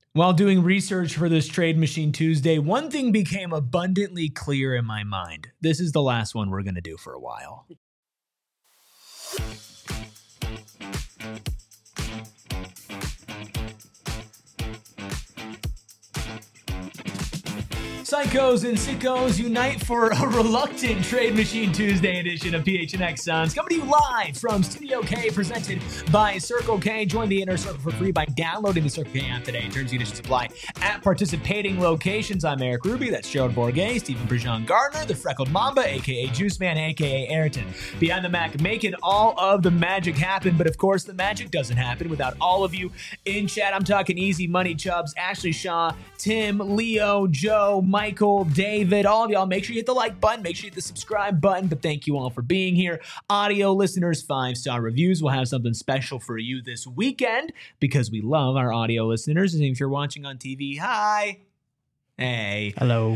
While doing research for this Trade Machine Tuesday, one thing became abundantly clear in my mind. This is the last one we're going to do for a while. Psychos and sickos unite for a reluctant Trade Machine Tuesday edition of PHNX Suns. Coming to you live from Studio K, presented by Circle K. Join the Inner Circle for free by downloading the Circle K app today. Terms and conditions apply at participating locations. I'm Eric Ruby. That's Gerald Bourget, Stephen Prejean Gardner, the Freckled Mamba, a.k.a. Juice Man, a.k.a. Ayrton. Behind the Mac, making all of the magic happen. But of course, the magic doesn't happen without all of you in chat. I'm talking Easy Money Chubbs, Ashley Shaw, Tim, Leo, Joe, Michael, David, all of y'all. Make sure you hit the like button. Make sure you hit the subscribe button. But thank you all for being here. Audio listeners, 5-star reviews. We'll have something special for you this weekend because we love our audio listeners. And if you're watching on TV, hi. Hey. Hello.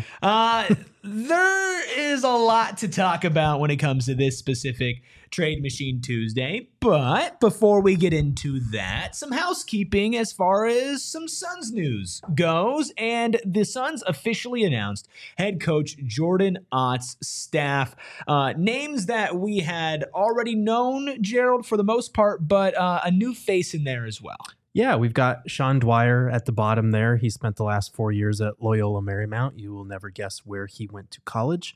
There is a lot to talk about when it comes to this specific Trade Machine Tuesday. But before we get into that, some housekeeping as far as some Suns news goes. And the Suns officially announced head coach Jordan Ott's staff. Names that we had already known, Gerald, for the most part, but a new face in there as well. Yeah, we've got Sean Dwyer at the bottom there. He spent the last 4 years at Loyola Marymount. You will never guess where he went to college.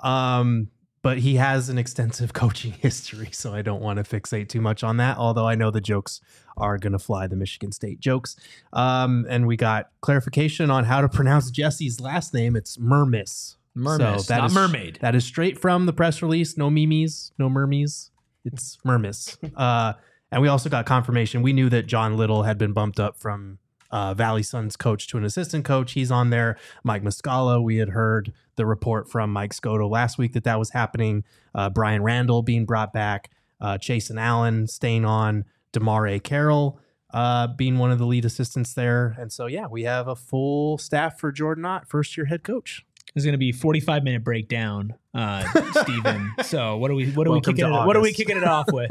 But he has an extensive coaching history, so I don't want to fixate too much on that, although I know the jokes are going to fly, the Michigan State jokes. And we got clarification on how to pronounce Jesse's last name. It's Mermis. Mermis, so not mermaid. That is straight from the press release. No memes, no mermies. It's Mermis. And we also got confirmation. We knew that John Little had been bumped up from Valley Suns coach to an assistant coach. He's on there. Mike Muscala, we had heard the report from Mike Scotto last week that was happening. Brian Randall being brought back. Chasen Allen staying on. DeMar Carroll being one of the lead assistants there. And so, yeah, we have a full staff for Jordan Ott, first-year head coach. There's going to be a 45-minute breakdown, Stephen. So what are we kicking it off with?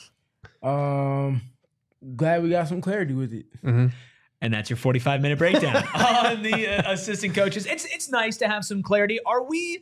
Glad we got some clarity with it. Mm-hmm. And that's your 45-minute breakdown on the assistant coaches. It's nice to have some clarity. Are we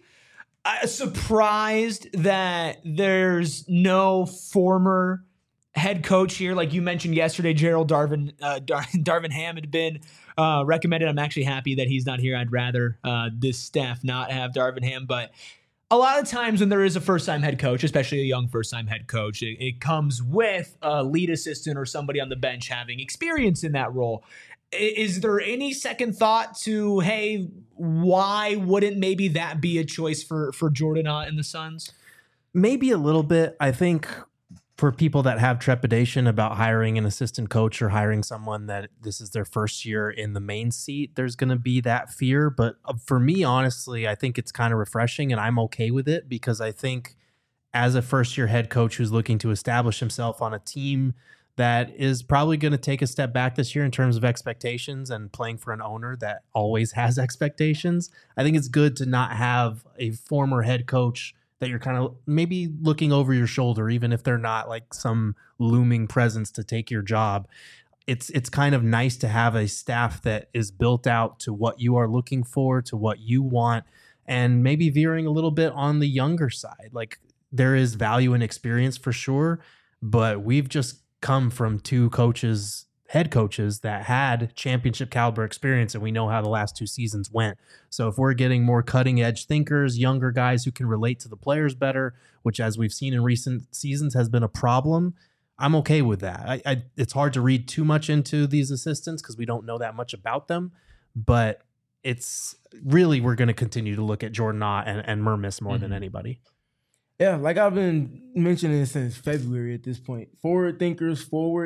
surprised that there's no former head coach here? Like you mentioned yesterday, Gerald, Darvin Ham had been recommended. I'm actually happy that he's not here. I'd rather this staff not have Darvin Ham, but a lot of times when there is a first-time head coach, especially a young first-time head coach, it comes with a lead assistant or somebody on the bench having experience in that role. Is there any second thought to, hey, why wouldn't maybe that be a choice for Jordan Ott and the Suns? Maybe a little bit. I think for people that have trepidation about hiring an assistant coach or hiring someone that this is their first year in the main seat, there's going to be that fear. But for me, honestly, I think it's kind of refreshing and I'm okay with it because I think as a first-year head coach who's looking to establish himself on a team that is probably going to take a step back this year in terms of expectations and playing for an owner that always has expectations, I think it's good to not have a former head coach that you're kind of maybe looking over your shoulder, even if they're not like some looming presence to take your job. It's kind of nice to have a staff that is built out to what you are looking for, to what you want, and maybe veering a little bit on the younger side. Like there is value in experience for sure, but we've just come from two head coaches that had championship caliber experience, and we know how the last 2 seasons went. So if we're getting more cutting edge thinkers, younger guys who can relate to the players better, which as we've seen in recent seasons has been a problem, I'm okay with that. It's hard to read too much into these assistants because we don't know that much about them, but it's really, we're going to continue to look at Jordan Ott and Mermis more than anybody. Yeah, like I've been mentioning since February at this point. Forward thinkers.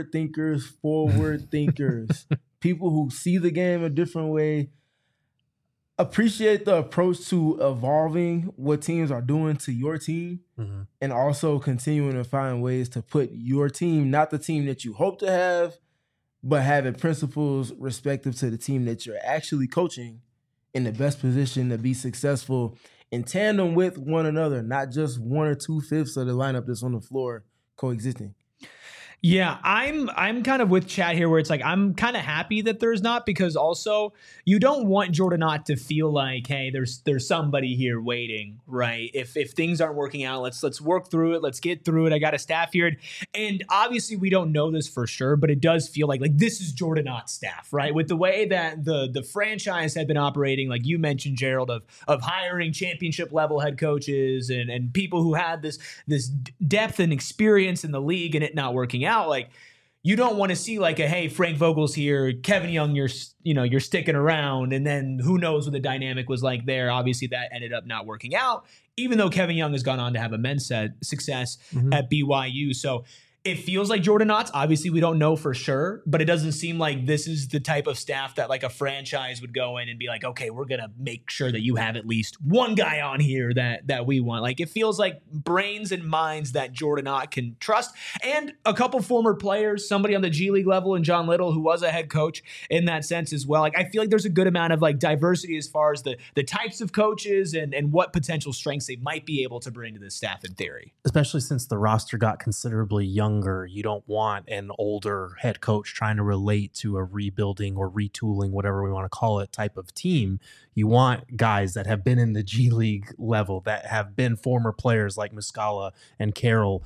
People who see the game a different way. Appreciate the approach to evolving what teams are doing to your team and also continuing to find ways to put your team, not the team that you hope to have, but having principles respective to the team that you're actually coaching in the best position to be successful in tandem with one another, not just 1 or 2/5 of the lineup that's on the floor coexisting. Yeah, I'm kind of with Chad here where it's like I'm kind of happy that there's not, because also you don't want Jordan Ott to feel like, hey, there's somebody here waiting, right? If things aren't working out, let's work through it, let's get through it. I got a staff here, and obviously we don't know this for sure, but it does feel like this is Jordan Ott's staff, right? With the way that the franchise had been operating, like you mentioned, Gerald, of hiring championship level head coaches and people who had this depth and experience in the league, and it not working out. Like, you don't want to see like a, hey, Frank Vogel's here, Kevin Young, you're sticking around, and then who knows what the dynamic was like there. Obviously that ended up not working out, even though Kevin Young has gone on to have immense success at BYU. So it feels like Jordan Ott's. Obviously, we don't know for sure, but it doesn't seem like this is the type of staff that like a franchise would go in and be like, okay, we're going to make sure that you have at least one guy on here that we want. Like, it feels like brains and minds that Jordan Ott can trust, and a couple former players, somebody on the G League level and John Little, who was a head coach in that sense as well. Like, I feel like there's a good amount of like diversity as far as the types of coaches and what potential strengths they might be able to bring to this staff in theory. Especially since the roster got considerably younger. You don't want an older head coach trying to relate to a rebuilding or retooling, whatever we want to call it, type of team. You want guys that have been in the G League level, that have been former players like Muscala and Carroll,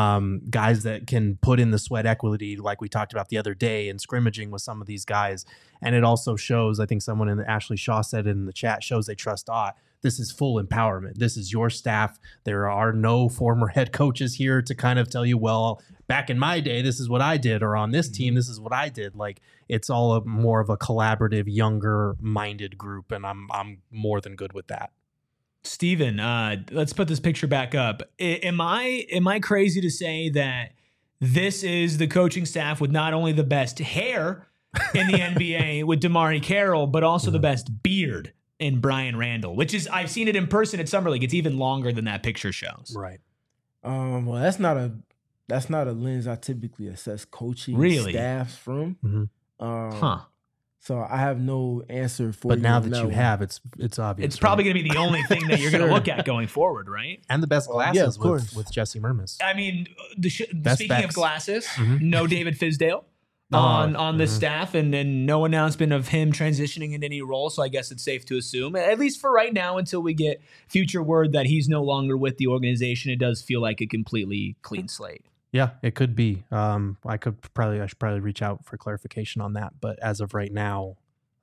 guys that can put in the sweat equity like we talked about the other day and scrimmaging with some of these guys. And it also shows, I think someone in Ashley Shaw said it in the chat, shows they trust Ott. This is full empowerment. This is your staff. There are no former head coaches here to kind of tell you, well, back in my day, this is what I did, or on this team, this is what I did. Like, it's all more of a collaborative, younger-minded group, and I'm more than good with that. Steven, let's put this picture back up. Am I crazy to say that this is the coaching staff with not only the best hair in the NBA with Damari Carroll, but also the best beard in Brian Randall, which is, I've seen it in person at Summer League. It's even longer than that picture shows. Right. Well, that's not a lens I typically assess coaching staffs from. Mm-hmm. So I have no answer for you. But now that you have, it's obvious. It's probably going to be the only thing that you're going to look at going forward, right? And the best glasses with Jesse Mermis. I mean, speaking of glasses, no David Fizdale on the staff, and then no announcement of him transitioning into any role. So I guess it's safe to assume, at least for right now, until we get future word that he's no longer with the organization, it does feel like a completely clean slate. Yeah, it could be. I should probably reach out for clarification on that. But as of right now,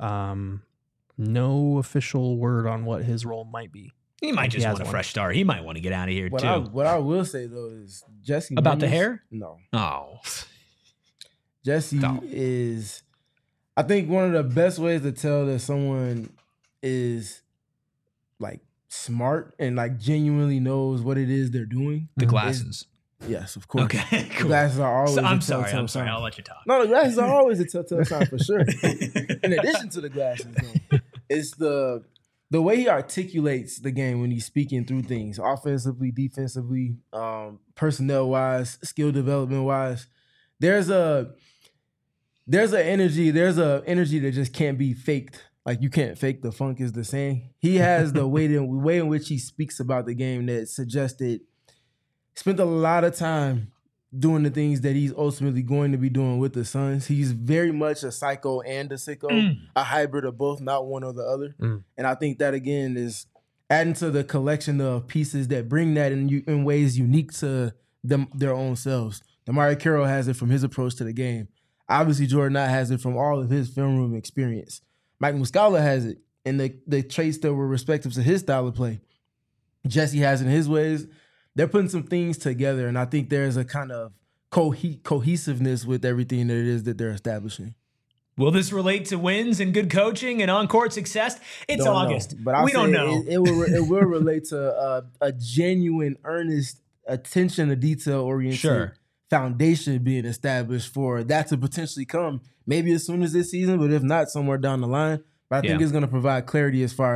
no official word on what his role might be. He might just want a fresh start. He might want to get out of here too. What I will say though is Jesse about the hair. No. Oh. Jesse is, I think, one of the best ways to tell that someone is like smart and like genuinely knows what it is they're doing. The glasses. Yes, of course. Okay, cool. The glasses are always. I'm sorry. I'll let you talk. No, the glasses are always a telltale sign for sure. In addition to the glasses, though, it's the way he articulates the game when he's speaking through things, offensively, defensively, personnel wise, skill development wise. There's an energy that just can't be faked. Like, you can't fake the funk, is the saying. He has the way in which he speaks about the game that suggested spent a lot of time doing the things that he's ultimately going to be doing with the Suns. He's very much a psycho and a sicko, a hybrid of both, not one or the other. And I think that, again, is adding to the collection of pieces that bring that in ways unique to them, their own selves. Damari Carroll has it from his approach to the game. Obviously, Jordan Ott has it from all of his film room experience. Mike Muscala has it in the traits that were respective to his style of play. Jesse has it in his ways. They're putting some things together, and I think there's a kind of cohesiveness with everything that it is that they're establishing. Will this relate to wins and good coaching and on-court success? It's don't August. Know. But we don't know. It will relate to a genuine, earnest, attention to detail-oriented foundation being established for that to potentially come, maybe as soon as this season, but if not, somewhere down the line. But I think it's going to provide clarity as far as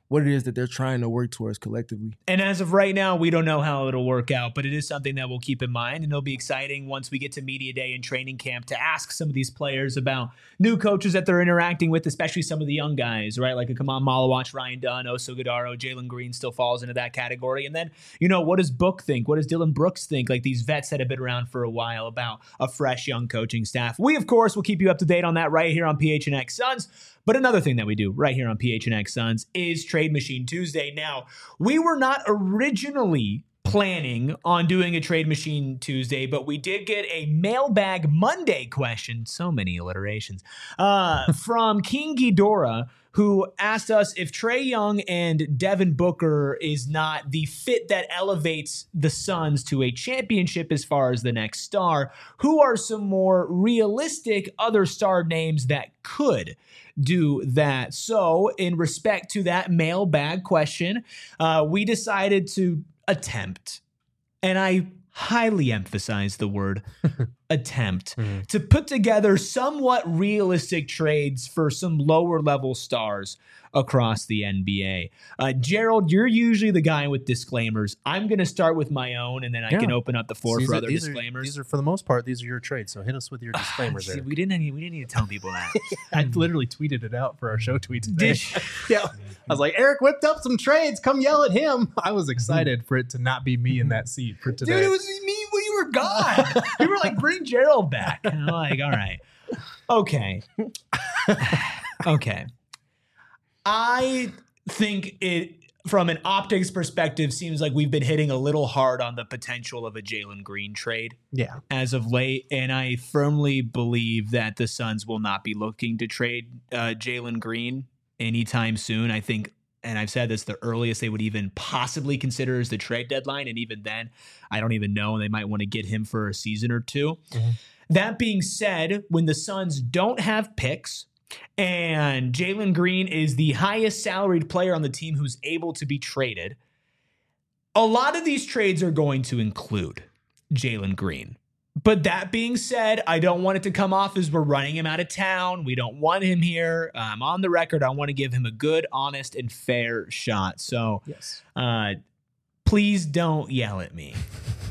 what it is that they're trying to work towards collectively. And as of right now, we don't know how it'll work out, but it is something that we'll keep in mind, and it'll be exciting once we get to media day and training camp to ask some of these players about new coaches that they're interacting with, especially some of the young guys, right? Like a Kaman Malawach, Ryan Dunn, Oso Godaro, Jalen Green still falls into that category. And then, what does Book think? What does Dylan Brooks think? Like these vets that have been around for a while about a fresh young coaching staff. We, of course, will keep you up to date on that right here on PHNX Suns. But another thing that we do right here on PHNX Suns is Trade Machine Tuesday. Now, we were not originally planning on doing a Trade Machine Tuesday, but we did get a Mailbag Monday question, so many alliterations, from King Ghidorah, who asked us if Trae Young and Devin Booker is not the fit that elevates the Suns to a championship as far as the next star, who are some more realistic other star names that could do that. So in respect to that mailbag question, we decided to attempt, and I highly emphasize the word attempt, to put together somewhat realistic trades for some lower level stars across the NBA. Gerald, you're usually the guy with disclaimers. I'm going to start with my own, and then I can open up the floor for other disclaimers. These are, for the most part, these are your trades. So hit us with your disclaimers. See, we didn't need to tell people that. I literally tweeted it out for our show tweet today. Yeah, I was like, Eric whipped up some trades. Come yell at him. I was excited for it to not be me in that seat for today. Dude, it was me when you were gone. You were like, bring Gerald back. And I'm like, all right. Okay. Okay. I think it, from an optics perspective, seems like we've been hitting a little hard on the potential of a Jalen Green trade as of late. And I firmly believe that the Suns will not be looking to trade Jalen Green anytime soon. I think, and I've said this, the earliest they would even possibly consider is the trade deadline. And even then, I don't even know. They might want to get him for a season or two. That being said, when the Suns don't have picks, and Jalen Green is the highest salaried player on the team who's able to be traded, a lot of these trades are going to include Jalen Green. But that being said, I don't want it to come off as we're running him out of town. We don't want him here. On the record, I want to give him a good, honest, and fair shot. So please don't yell at me.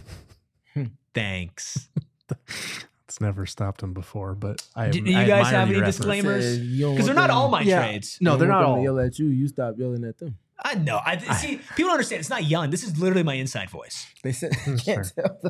Thanks. It's never stopped him before, but do you guys have any disclaimers? Because they're not all my trades. No, they're not all. Yell at you. You stop yelling at them. I know. See, people don't understand. It's not yelling. This is literally my inside voice. They said can't tell.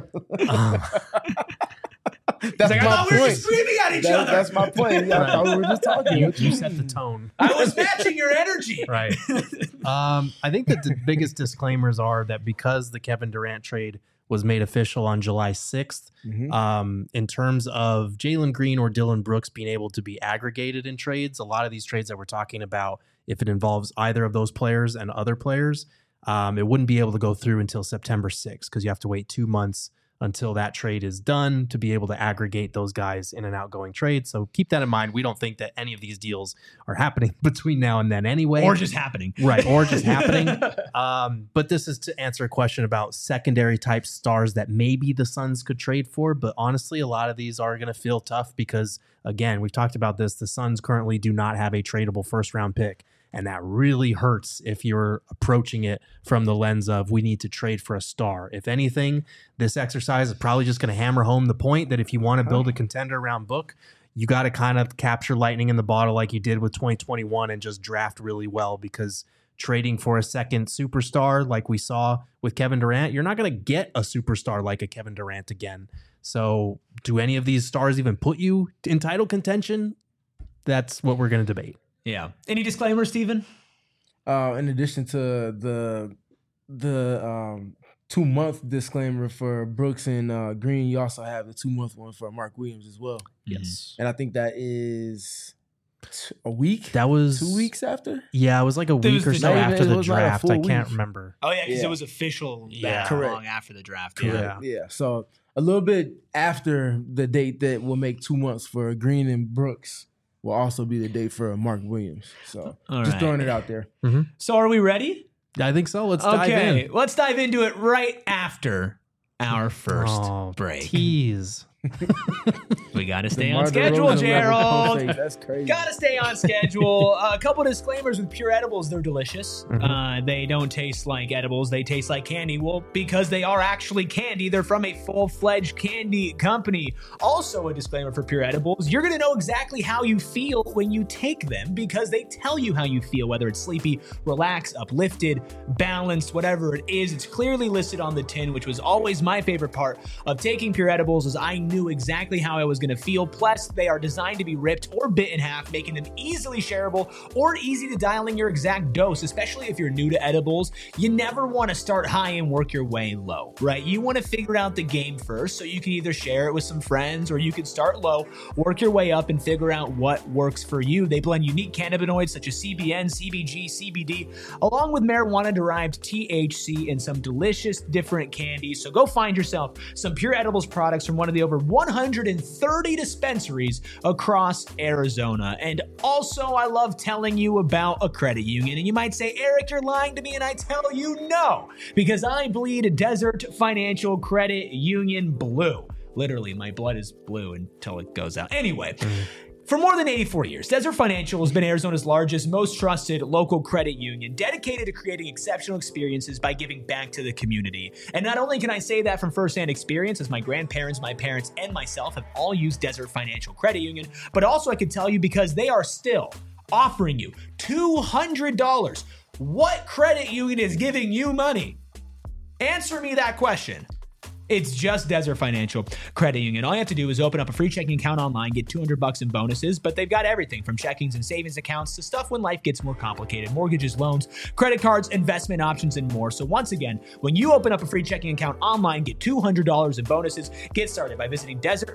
That's like, I thought we were just screaming at each other. That's my point. I thought we were just talking. You set the tone. I was matching your energy. Right. I think that the biggest disclaimers are that because the Kevin Durant trade was made official on July 6th, in terms of Jalen Green or Dylan Brooks being able to be aggregated in trades, a lot of these trades that we're talking about, if it involves either of those players and other players, it wouldn't be able to go through until September 6th because you have to wait 2 months until that trade is done to be able to aggregate those guys in an outgoing trade. So keep that in mind. We don't think that any of these deals are happening between now and then anyway. Or just happening. Right, or just happening. But this is to answer a question about secondary type stars that maybe the Suns could trade for. But honestly, a lot of these are going to feel tough because, again, we've talked about this. The Suns currently do not have a tradable first-round pick. And that really hurts if you're approaching it from the lens of we need to trade for a star. If anything, this exercise is probably just going to hammer home the point that if you want to build a contender around Book, you got to kind of capture lightning in the bottle like you did with 2021 and just draft really well, because trading for a second superstar like we saw with Kevin Durant, you're not going to get a superstar like a Kevin Durant again. So do any of these stars even put you in title contention? That's what we're going to debate. Yeah. Any disclaimers, Steven? In addition to the 2-month disclaimer for Brooks and Green, you also have the 2-month one for Mark Williams as well. Yes. And I think that is a week? That was 2 weeks after? Yeah, it was like a week or so after the draft. I can't week. remember. Oh, yeah, because it was official long after the draft. Correct. Yeah, so a little bit after the date that will make 2 months for Green and Brooks will also be the date for Mark Williams. So just throwing it out there. Mm-hmm. So are we ready? I think so. Let's dive in. Let's dive into it right after our first break. Tease. We got to stay DeMar on schedule, DeRozan level pump Gerald. fake. That's crazy. Gotta stay on schedule. A couple disclaimers with Pure Edibles. They're delicious. They don't taste like edibles. They taste like candy. Well, because they are actually candy. They're from a full-fledged candy company. Also a disclaimer for Pure Edibles. You're going to know exactly how you feel when you take them because they tell you how you feel, whether it's sleepy, relaxed, uplifted, balanced, whatever it is. It's clearly listed on the tin, which was always my favorite part of taking Pure Edibles is I knew exactly how I was going to feel. Plus, they are designed to be ripped or bit in half, making them easily shareable or easy to dial in your exact dose, especially if you're new to edibles. You never want to start high and work your way low, right? You want to figure out the game first so you can either share it with some friends or you can start low, work your way up and figure out what works for you. They blend unique cannabinoids such as CBN, CBG, CBD, along with marijuana-derived THC and some delicious different candies. So go find yourself some Pure Edibles products from one of the over 130 dispensaries across Arizona. And also, I love telling you about a credit union. And you might say, Eric, you're lying to me. And I tell you no, because I bleed Desert Financial Credit Union blue. Literally, my blood is blue until it goes out. Anyway. For more than 84 years, Desert Financial has been Arizona's largest, most trusted local credit union, dedicated to creating exceptional experiences by giving back to the community. And not only can I say that from firsthand experience, as my grandparents, my parents, and myself have all used Desert Financial Credit Union, but also I can tell you because they are still offering you $200. What credit union is giving you money? Answer me that question. It's just Desert Financial Credit Union. All you have to do is open up a free checking account online, get $200 in bonuses, but they've got everything from checkings and savings accounts to stuff when life gets more complicated, mortgages, loans, credit cards, investment options, and more. So once again, when you open up a free checking account online, get $200 in bonuses. Get started by visiting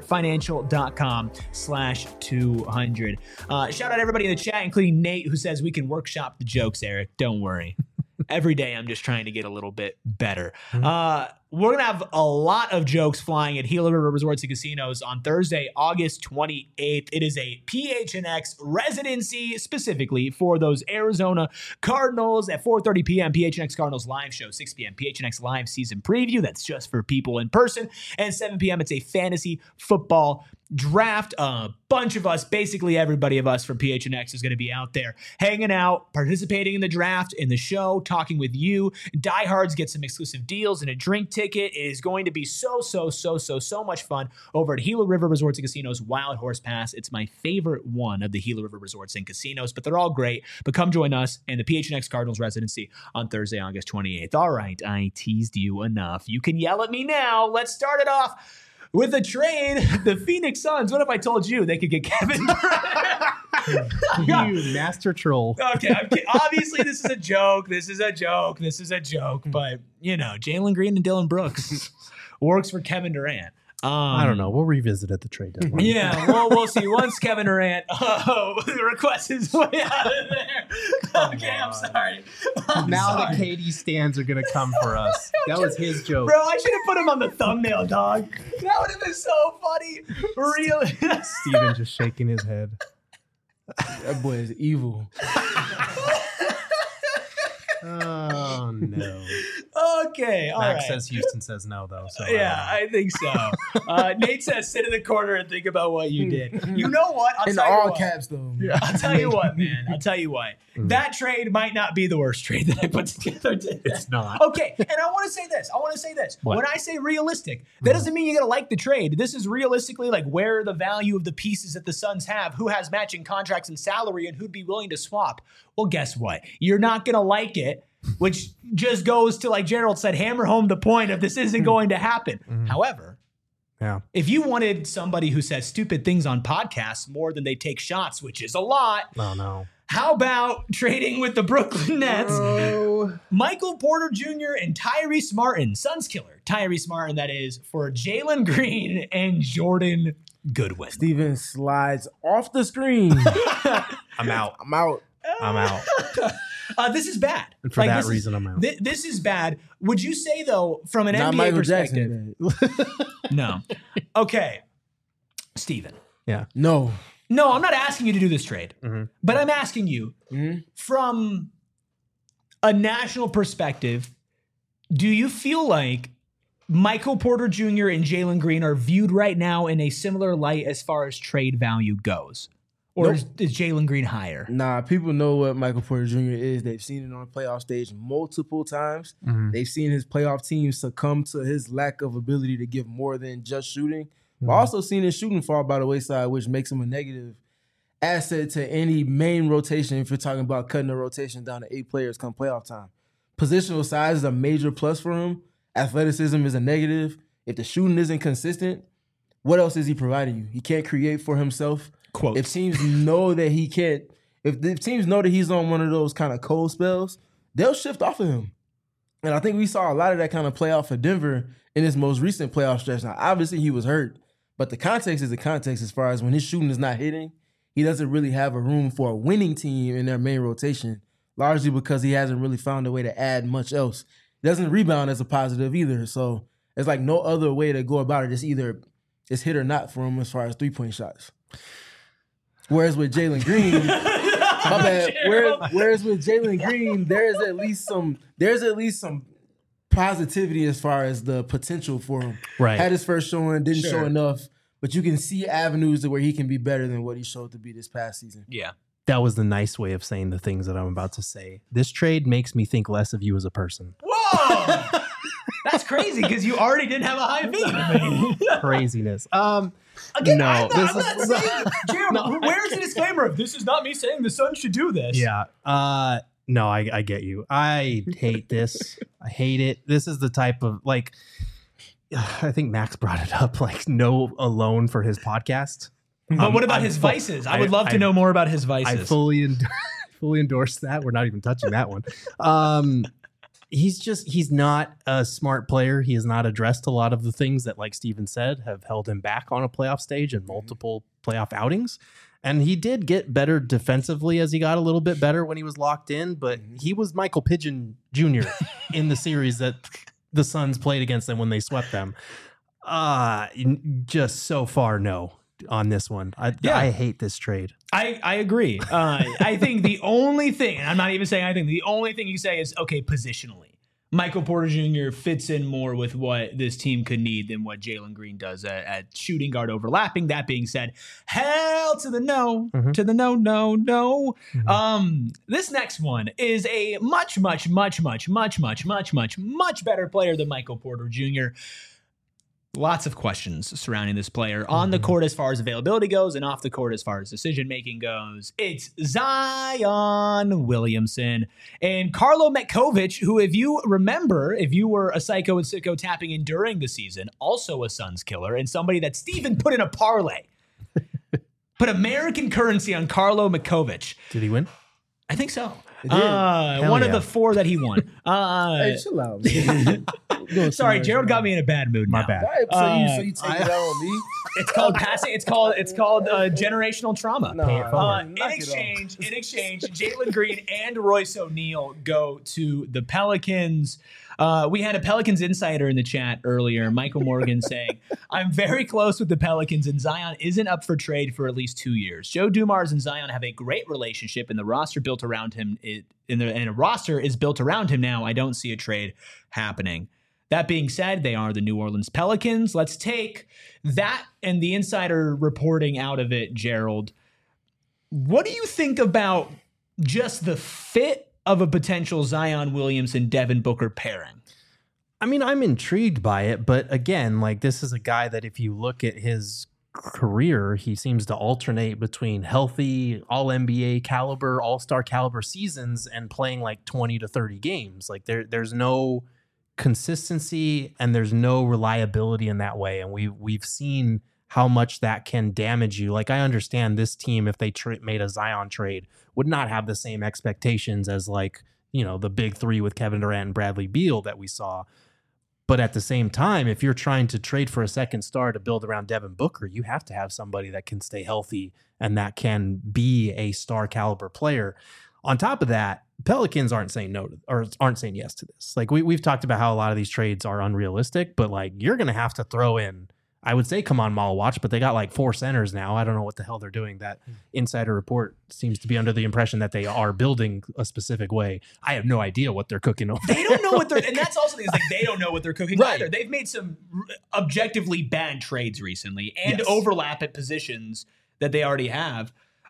desertfinancial.com/200. Shout out everybody in the chat, including Nate, who says we can workshop the jokes, Eric. Don't worry. Every day I'm just trying to get a little bit better. We're going to have a lot of jokes flying at Gila River Resorts and Casinos on Thursday, August 28th. It is a PHNX residency specifically for those Arizona Cardinals at 4:30 p.m. PHNX Cardinals live show, 6 p.m. PHNX live season preview. That's just for people in person. And 7 p.m. it's a fantasy football draft. A bunch of us, basically everybody of us from PHNX is going to be out there hanging out, participating in the draft, in the show, talking with you. Diehards get some exclusive deals and a drink ticket. It is going to be so much fun over at Gila River Resorts and Casinos Wild Horse Pass. It's my favorite one of the Gila River Resorts and Casinos, but they're all great. But come join us in the PHNX Cardinals residency on Thursday, August 28th. All right, I teased you enough. You can yell at me now. Let's start it off with a trade. The Phoenix Suns. What if I told you they could get Kevin Durant? You master troll. Okay, obviously this is a joke. But, you know, Jalen Green and Dylan Brooks works for Kevin Durant. I don't know. We'll revisit at the trade deadline. Yeah, well, we'll see. Once Kevin Durant requests his way out of there. Okay, I'm sorry. Now the KD stands are going to come for us. That was his joke. Bro, I should have put him on the thumbnail, dog. That would have been so funny. Really? Steven just shaking his head. That boy is evil. Oh, no. Okay, all Max right. says Houston says no, though. So Yeah, I think so. Nate says, sit in the corner and think about what you did. You know what? I'll In tell you all what. caps, though. Yeah. I'll tell you what, man. I'll tell you what. That trade might not be the worst trade that I put together today. It's not. Okay, and I want to say this. What? When I say realistic, that doesn't mean you got to like the trade. This is realistically like where the value of the pieces that the Suns have, who has matching contracts and salary, and who'd be willing to swap. Well, guess what? You're not going to like it, which just goes to, like Gerald said, hammer home the point of this isn't going to happen. However, Yeah. if you wanted somebody who says stupid things on podcasts more than they take shots, which is a lot, Oh, no. how about trading with the Brooklyn Nets? Michael Porter Jr. and Tyrese Martin, Suns killer, Tyrese Martin, that is, for Jalen Green and Jordan Goodwin. Steven slides off the screen. I'm out. I'm out. I'm out. This is bad. And for that reason, I'm out. This is bad. Would you say, though, from an Not NBA Michael perspective? Jackson. No. Okay. Steven. No. No, I'm not asking you to do this trade, but I'm asking you from a national perspective, do you feel like Michael Porter Jr. and Jalen Green are viewed right now in a similar light as far as trade value goes? Or is Jalen Green higher? Nah, people know what Michael Porter Jr. is. They've seen it on the playoff stage multiple times. Mm-hmm. They've seen his playoff team succumb to his lack of ability to give more than just shooting. Mm-hmm. But also seen his shooting fall by the wayside, which makes him a negative asset to any main rotation if you're talking about cutting the rotation down to 8 players come playoff time. Positional size is a major plus for him. Athleticism is a negative. If the shooting isn't consistent, what else is he providing you? He can't create for himself. Quotes. If teams know that he can't, if the teams know that he's on one of those kind of cold spells, they'll shift off of him. And I think we saw a lot of that kind of play out for Denver in his most recent playoff stretch. Now, obviously he was hurt, but the context is the context as far as when his shooting is not hitting, he doesn't really have a room for a winning team in their main rotation, largely because he hasn't really found a way to add much else. He doesn't rebound as a positive either. So there's like no other way to go about it. It's either it's hit or not for him as far as 3-point shots. Whereas with Jalen Green, my bad. Whereas with Jalen Green, there's at least some positivity as far as the potential for him. Right. Had his first showing, didn't show enough, but you can see avenues to where he can be better than what he showed to be this past season. Yeah. That was the nice way of saying the things that I'm about to say. This trade makes me think less of you as a person. Whoa! That's crazy because you already didn't have a high beat. Craziness. Again, I'm not saying, Gerald, where's the disclaimer of this is not me saying the Suns should do this? Yeah. No, I get you. I hate this. I hate it. This is the type of, like, I think Max brought it up, like, no alone for his podcast. But what about his vices? I would love to know more about his vices. I fully endorse that. We're not even touching that one. He's not a smart player. He has not addressed a lot of the things that, like Steven said, have held him back on a playoff stage and multiple playoff outings. And he did get better defensively as he got a little bit better when he was locked in, but he was Michael Pigeon Jr. in the series that the Suns played against them when they swept them. Just so far, no. On this one. I hate this trade. I agree. I think the only thing, and I'm not even saying I think, the only thing you say is, okay, positionally, Michael Porter Jr. fits in more with what this team could need than what Jalen Green does at shooting guard overlapping. That being said, hell to the no, to the no. Mm-hmm. This next one is a much better player than Michael Porter Jr. Lots of questions surrounding this player on the court as far as availability goes and off the court as far as decision-making goes. It's Zion Williamson and Carlo Metkovic, who, if you remember, if you were a psycho and sicko tapping in during the season, also a Suns killer and somebody that Steven put in a parlay. Put American currency on Carlo Metkovic. Did he win? I think so. One of the 4 that he won. Hey, chill out, man. Sorry, Gerald got me in a bad mood. My bad. So you take it out on me? It's called passing. It's called generational trauma. In exchange, Jalen Green and Royce O'Neal go to the Pelicans. We had a Pelicans insider in the chat earlier, Michael Morgan, saying, I'm very close with the Pelicans and Zion isn't up for trade for at least 2 years. Joe Dumars and Zion have a great relationship and the roster built around him. And a roster is built around him now. I don't see a trade happening. That being said, they are the New Orleans Pelicans. Let's take that and the insider reporting out of it, Gerald. What do you think about just the fit of a potential Zion Williamson Devin Booker pairing? I mean, I'm intrigued by it, but again, like, this is a guy that if you look at his career, he seems to alternate between healthy all-NBA caliber, all-star caliber seasons and playing like 20 to 30 games. Like there's no consistency and there's no reliability in that way. And we've seen how much that can damage you. Like, I understand this team, if they made a Zion trade, would not have the same expectations as, like, you know, the big 3 with Kevin Durant and Bradley Beal that we saw. But at the same time, if you're trying to trade for a second star to build around Devin Booker, you have to have somebody that can stay healthy and that can be a star caliber player. On top of that, Pelicans aren't saying yes to this. Like, we've talked about how a lot of these trades are unrealistic, but like, you're going to have to throw in I would say come on mall watch, but they got like 4 centers now. I don't know what the hell they're doing. That insider report seems to be under the impression that they are building a specific way. I have no idea what they're cooking over. They don't know what they're, and that's also the thing, is like they don't know what they're cooking either. They've made some objectively bad trades recently and overlap at positions that they already have.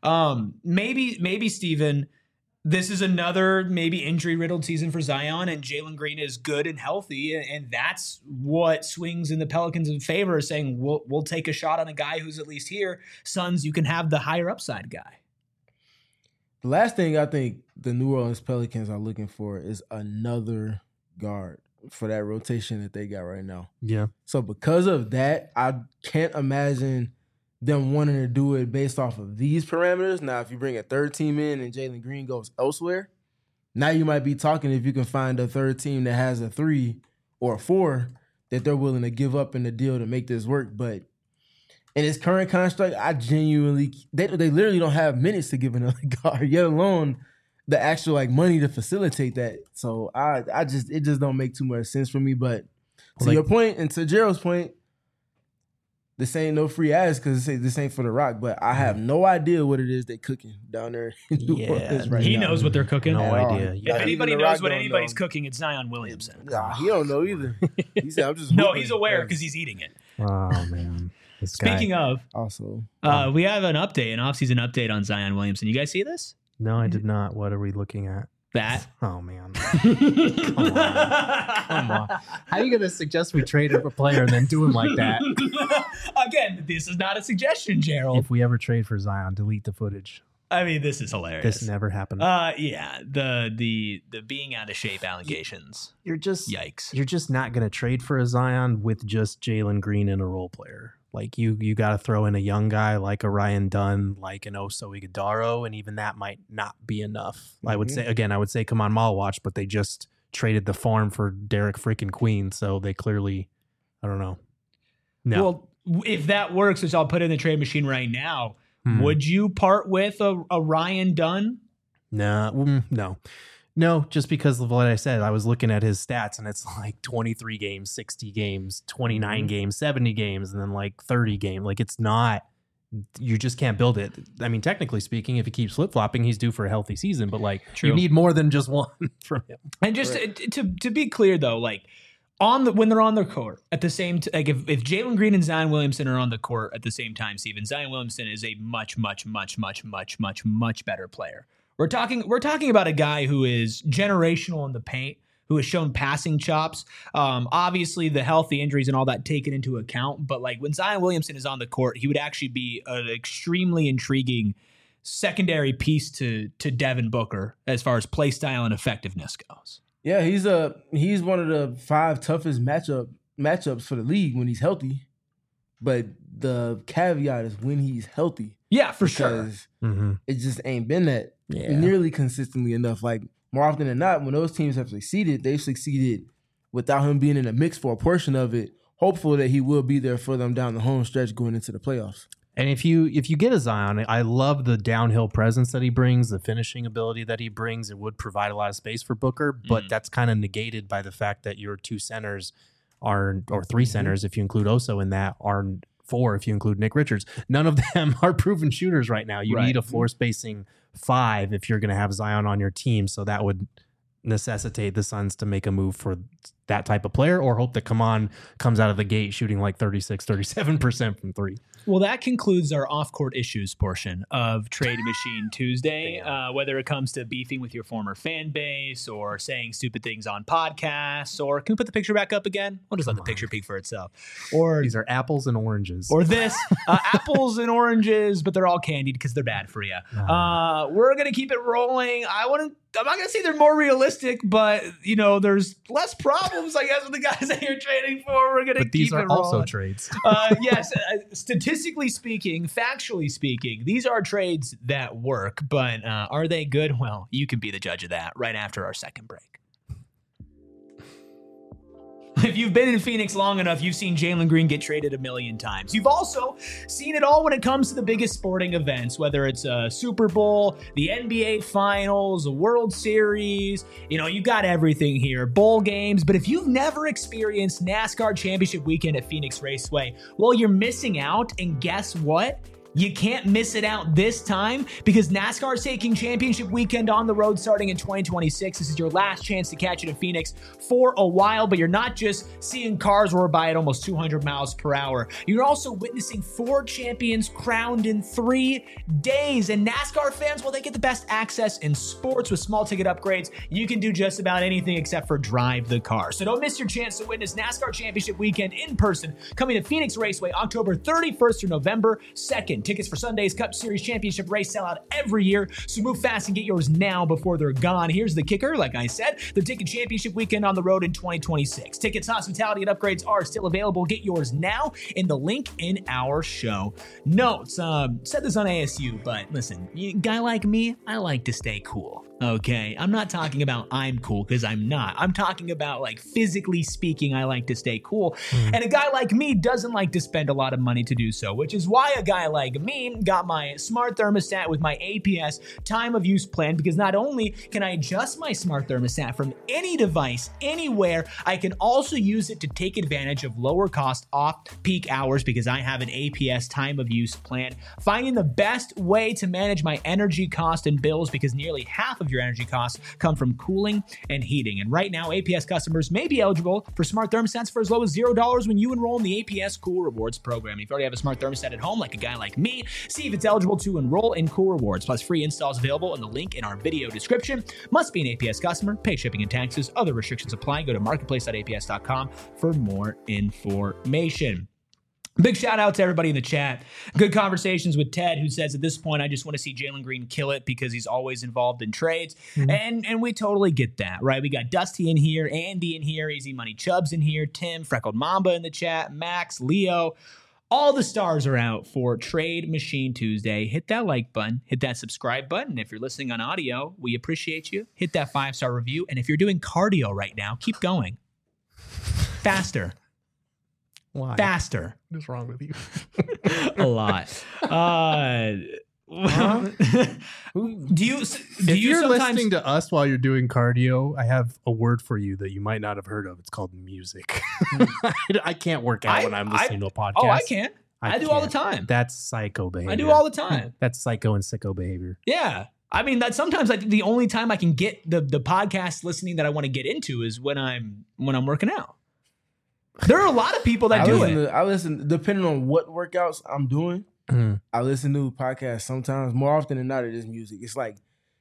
Maybe Steven, this is another maybe injury-riddled season for Zion, and Jalen Green is good and healthy, and that's what swings in the Pelicans' in favor, saying we'll take a shot on a guy who's at least here. Suns, you can have the higher upside guy. The last thing I think the New Orleans Pelicans are looking for is another guard for that rotation that they got right now. Yeah. So because of that, I can't imagine them wanting to do it based off of these parameters. Now, if you bring a third team in and Jalen Green goes elsewhere, now you might be talking if you can find a third team that has a 3 or a 4 that they're willing to give up in the deal to make this work. But in its current construct, I genuinely, they literally don't have minutes to give another guard, yet alone the actual like money to facilitate that. So it just don't make too much sense for me. But to your point and to Gerald's point, this ain't no free ass because this ain't for the Rock, but I have no idea what it is they cooking down there in New Orleans right now. He knows what they're cooking. No idea. If anybody knows what anybody's cooking, it's Zion Williamson. Nah, he don't know either. He said, "I'm just no, he's aware because he's eating it." Oh man. Speaking of, also, we have an offseason update on Zion Williamson. You guys see this? No, I did not. What are we looking at? That. Oh man. Come on. How are you gonna suggest we trade a player and then do him like that? Again, this is not a suggestion, Gerald. If we ever trade for Zion, delete the footage. I mean, this is hilarious. This never happened. Yeah, the being out of shape allegations. Yikes. You're You're just not gonna trade for a Zion with just Jalen Green and a role player. Like you got to throw in a young guy like a Ryan Dunn, like an Oso Ighodaro, and even that might not be enough. Mm-hmm. I would say come on mall watch, but they just traded the farm for Derek freaking Queen, so they clearly, I don't know. No. Well, if that works, which I'll put in the trade machine right now, would you part with a Ryan Dunn? No, just because of what I said. I was looking at his stats, and it's like 23 games, 60 games, 29 games, 70 games, and then like 30 games. Like it's not, you just can't build it. I mean, technically speaking, if he keeps flip-flopping, he's due for a healthy season, but like you need more than just one from him. And just to be clear though, like when they're on the court at the same like if Jalen Green and Zion Williamson are on the court at the same time, Steven, Zion Williamson is a much better player. We're talking about a guy who is generational in the paint, who has shown passing chops. Obviously, the health, the injuries, and all that taken into account. But like when Zion Williamson is on the court, he would actually be an extremely intriguing secondary piece to Devin Booker as far as play style and effectiveness goes. Yeah, he's one of the 5 toughest matchups for the league when he's healthy. But the caveat is when he's healthy. Yeah, for sure. It just ain't been that nearly consistently enough. Like more often than not, when those teams have succeeded, they've succeeded without him being in the mix for a portion of it, hopeful that he will be there for them down the home stretch going into the playoffs. And if you get a Zion, I love the downhill presence that he brings, the finishing ability that he brings. It would provide a lot of space for Booker, but that's kind of negated by the fact that your 2 centers or 3 centers, if you include Oso in that, are 4 if you include Nick Richards. None of them are proven shooters right now. You need a floor spacing 5 if you're going to have Zion on your team. So that would necessitate the Suns to make a move for that type of player, or hope that comes out of the gate shooting like 37% from 3. Well, that concludes our off-court issues portion of Trade Machine Tuesday. Whether it comes to beefing with your former fan base or saying stupid things on podcasts, or can we put the picture back up again? We'll just let the picture speak for itself. Or these are apples and oranges. Or this, apples and oranges, but they're all candied because they're bad for you. We're going to keep it rolling. I'm not going to say they're more realistic, but, there's less problems, I guess, with the guys that you're trading for. We're going to keep it rolling. But these are also trades. Yes, statistically speaking, factually speaking, these are trades that work, but are they good? Well, you can be the judge of that right after our second break. If you've been in Phoenix long enough, you've seen Jalen Green get traded a million times. You've also seen it all when it comes to the biggest sporting events, whether it's a Super Bowl, the NBA Finals, a World Series. You got everything here, bowl games. But if you've never experienced NASCAR Championship Weekend at Phoenix Raceway, well, you're missing out. And guess what? You can't miss it out this time because NASCAR is taking Championship Weekend on the road starting in 2026. This is your last chance to catch it in Phoenix for a while, but you're not just seeing cars roar by at almost 200 miles per hour. You're also witnessing 4 champions crowned in 3 days. And NASCAR fans, well, they get the best access in sports with small ticket upgrades. You can do just about anything except for drive the car. So don't miss your chance to witness NASCAR Championship Weekend in person coming to Phoenix Raceway October 31st through November 2nd. Tickets for Sunday's Cup Series Championship race sell out every year, so move fast and get yours now before they're gone. Here's the kicker. Like I said, they're taking Championship Weekend on the road in 2026. Tickets, hospitality, and upgrades are still available. Get yours now in the link in our show notes. Said this on ASU, but listen, a guy like me, I like to stay cool. Okay, I'm not talking about I'm cool because I'm not. I'm talking about like physically speaking, I like to stay cool. And a guy like me doesn't like to spend a lot of money to do so, which is why a guy like me got my smart thermostat with my APS time of use plan, because not only can I adjust my smart thermostat from any device, anywhere, I can also use it to take advantage of lower cost off-peak hours because I have an APS time of use plan. Finding the best way to manage my energy cost and bills because nearly half of your energy costs come from cooling and heating. And right now, APS customers may be eligible for smart thermostats for as low as $0 when you enroll in the APS Cool Rewards program. If you already have a smart thermostat at home, like a guy like me, see if it's eligible to enroll in Cool Rewards. Plus, free installs available in the link in our video description. Must be an APS customer, pay shipping and taxes. Other restrictions apply. Go to marketplace.aps.com for more information. Big shout out to everybody in the chat. Good conversations with Ted, who says at this point, I just want to see Jalen Green kill it because he's always involved in trades. And we totally get that, right? We got Dusty in here, Andy in here, Easy Money Chubbs in here, Tim, Freckled Mamba in the chat, Max, Leo. All the stars are out for Trade Machine Tuesday. Hit that like button, hit that subscribe button. If you're listening on audio, we appreciate you. Hit that 5-star review. And if you're doing cardio right now, keep going. Faster. Why? Faster. What is wrong with you? A lot. Do you if you're sometimes listening to us while you're doing cardio, I have a word for you that you might not have heard of. It's called music. I can't work out when I'm listening to a podcast. Oh, I can. I do all the time. That's psycho behavior. I do all the time. That's psycho and sicko behavior. Yeah. I mean, that sometimes I think the only time I can get the podcast listening that I want to get into is when I'm working out. There are a lot of people that do it. I listen, depending on what workouts I'm doing, I listen to podcasts sometimes. More often than not, it is music. It's like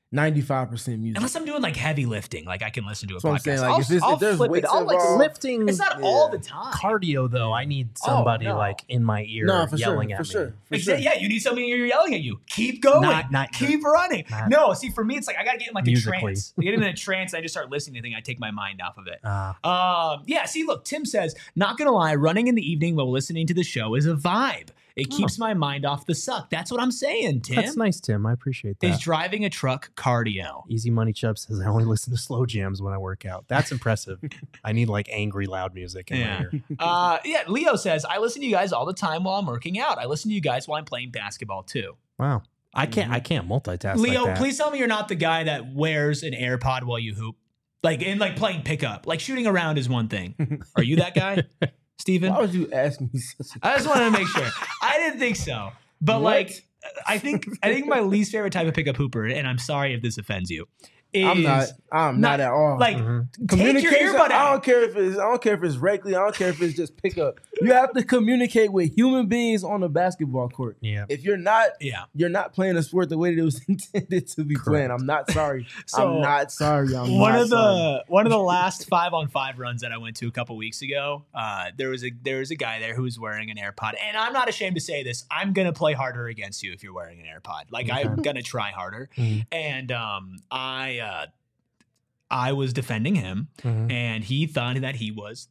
95% music. Unless I'm doing like heavy lifting, like I can listen to a So I'm podcast. saying, like, if there's flip it. weights I'll like involved- Lifting. It's not all the time. Cardio though. I need somebody no. like in my ear for yelling sure, at for sure, me. for sure. Yeah, you need somebody you're yelling at you. Keep going. Keep running. No, see, for me, it's like I gotta get in like musically. a trance. I get in a trance. I just start listening to things. I take my mind off of it. Yeah. See, look, Tim says, not gonna lie, running in the evening while listening to the show is a vibe. It keeps my mind off the suck. That's what I'm saying, Tim. That's nice, Tim. I appreciate that. Is driving a truck cardio? Easy Money Chubb says I only listen to slow jams when I work out. That's impressive. I need like angry loud music in my ear. Leo says, I listen to you guys all the time while I'm working out. I listen to you guys while I'm playing basketball too. Wow. I can't multitask. Leo, like that. please tell me you're not the guy that wears an AirPod while you hoop. Like playing pickup. Like shooting around is one thing. Are you that guy? Steven? Why would you ask me such a I just wanted to make sure. I didn't think so. But What? like I think my least favorite type of pickup hooper, and I'm sorry if this offends you, is I'm not at all. like take your communication. earbud I out. don't care if it's regularly. I don't care if it's just pickup. You have to communicate with human beings on the basketball court. Yeah. If you're not, you're not playing a sport the way that it was intended to be playing. I'm not sorry. So, I'm not sorry. One of the last 5-on-5 runs that I went to a couple weeks ago, there was a guy there who was wearing an AirPod, and I'm not ashamed to say this. I'm gonna play harder against you if you're wearing an AirPod. Like I'm gonna try harder, and I was defending him, and he thought that he was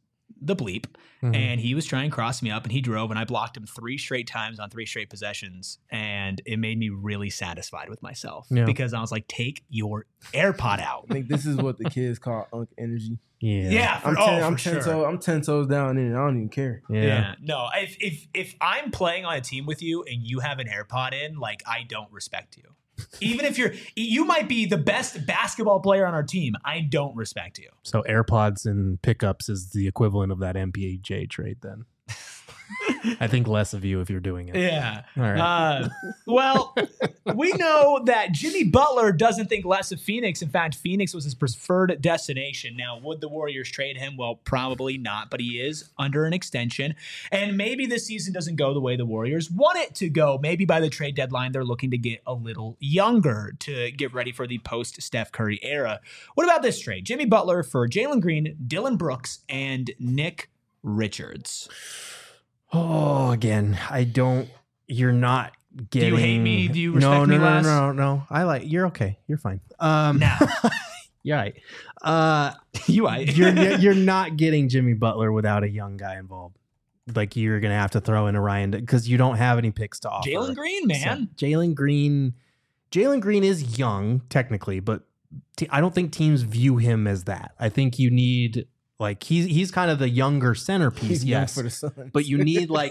the bleep, and he was trying to cross me up, and he drove, and I blocked him 3 straight times on 3 straight possessions, and it made me really satisfied with myself because I was like, take your AirPod out. I think this is what the kids call unk energy. Yeah. I'm 10 toes down in it. I don't even care. Yeah. No, if I'm playing on a team with you and you have an AirPod in, like, I don't respect you. Even if you might be the best basketball player on our team, I don't respect you. So AirPods and pickups is the equivalent of that MPJ trade then. I think less of you if you're doing it. Yeah. All right. Well, we know that Jimmy Butler doesn't think less of Phoenix. In fact, Phoenix was his preferred destination. Now, would the Warriors trade him? Well, probably not, but he is under an extension. And maybe this season doesn't go the way the Warriors want it to go. Maybe by the trade deadline, they're looking to get a little younger to get ready for the post-Steph Curry era. What about this trade? Jimmy Butler for Jalen Green, Dillon Brooks, and Nick Richards. Oh, again, you're not getting. Do you hate me? Do you respect me less? No. You're okay. You're fine. Now. You're right. You're not getting Jimmy Butler without a young guy involved. Like, you're going to have to throw in Orion because you don't have any picks to offer. Jalen Green, man. So Jalen Green is young, technically, but I don't think teams view him as that. I think you need... Like he's kind of the younger centerpiece, he's yes. For the Suns. But you need like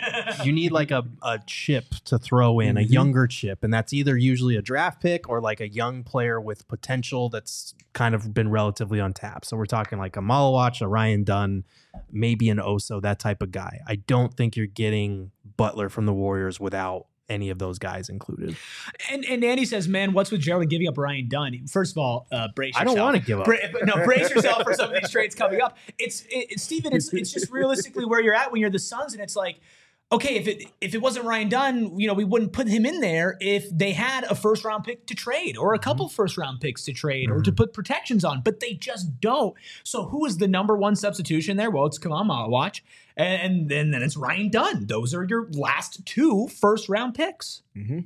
a chip to throw in, a younger chip, and that's either usually a draft pick or like a young player with potential that's kind of been relatively untapped. So we're talking like a Malawach, a Ryan Dunn, maybe an Oso, that type of guy. I don't think you're getting Butler from the Warriors without any of those guys included. And Andy says, man, what's with Gerald giving up Ryan Dunn? First of all, brace yourself. I don't want to give up. Brace yourself for some of these trades coming up. Steven, it's just realistically where you're at when you're the Suns, and it's like, okay, if it wasn't Ryan Dunn, we wouldn't put him in there if they had a first-round pick to trade or a couple first-round picks to trade or to put protections on, but they just don't. So who is the number one substitution there? Well, it's Kamal Malawach, and then it's Ryan Dunn. Those are your last 2 first-round picks. Mm-hmm.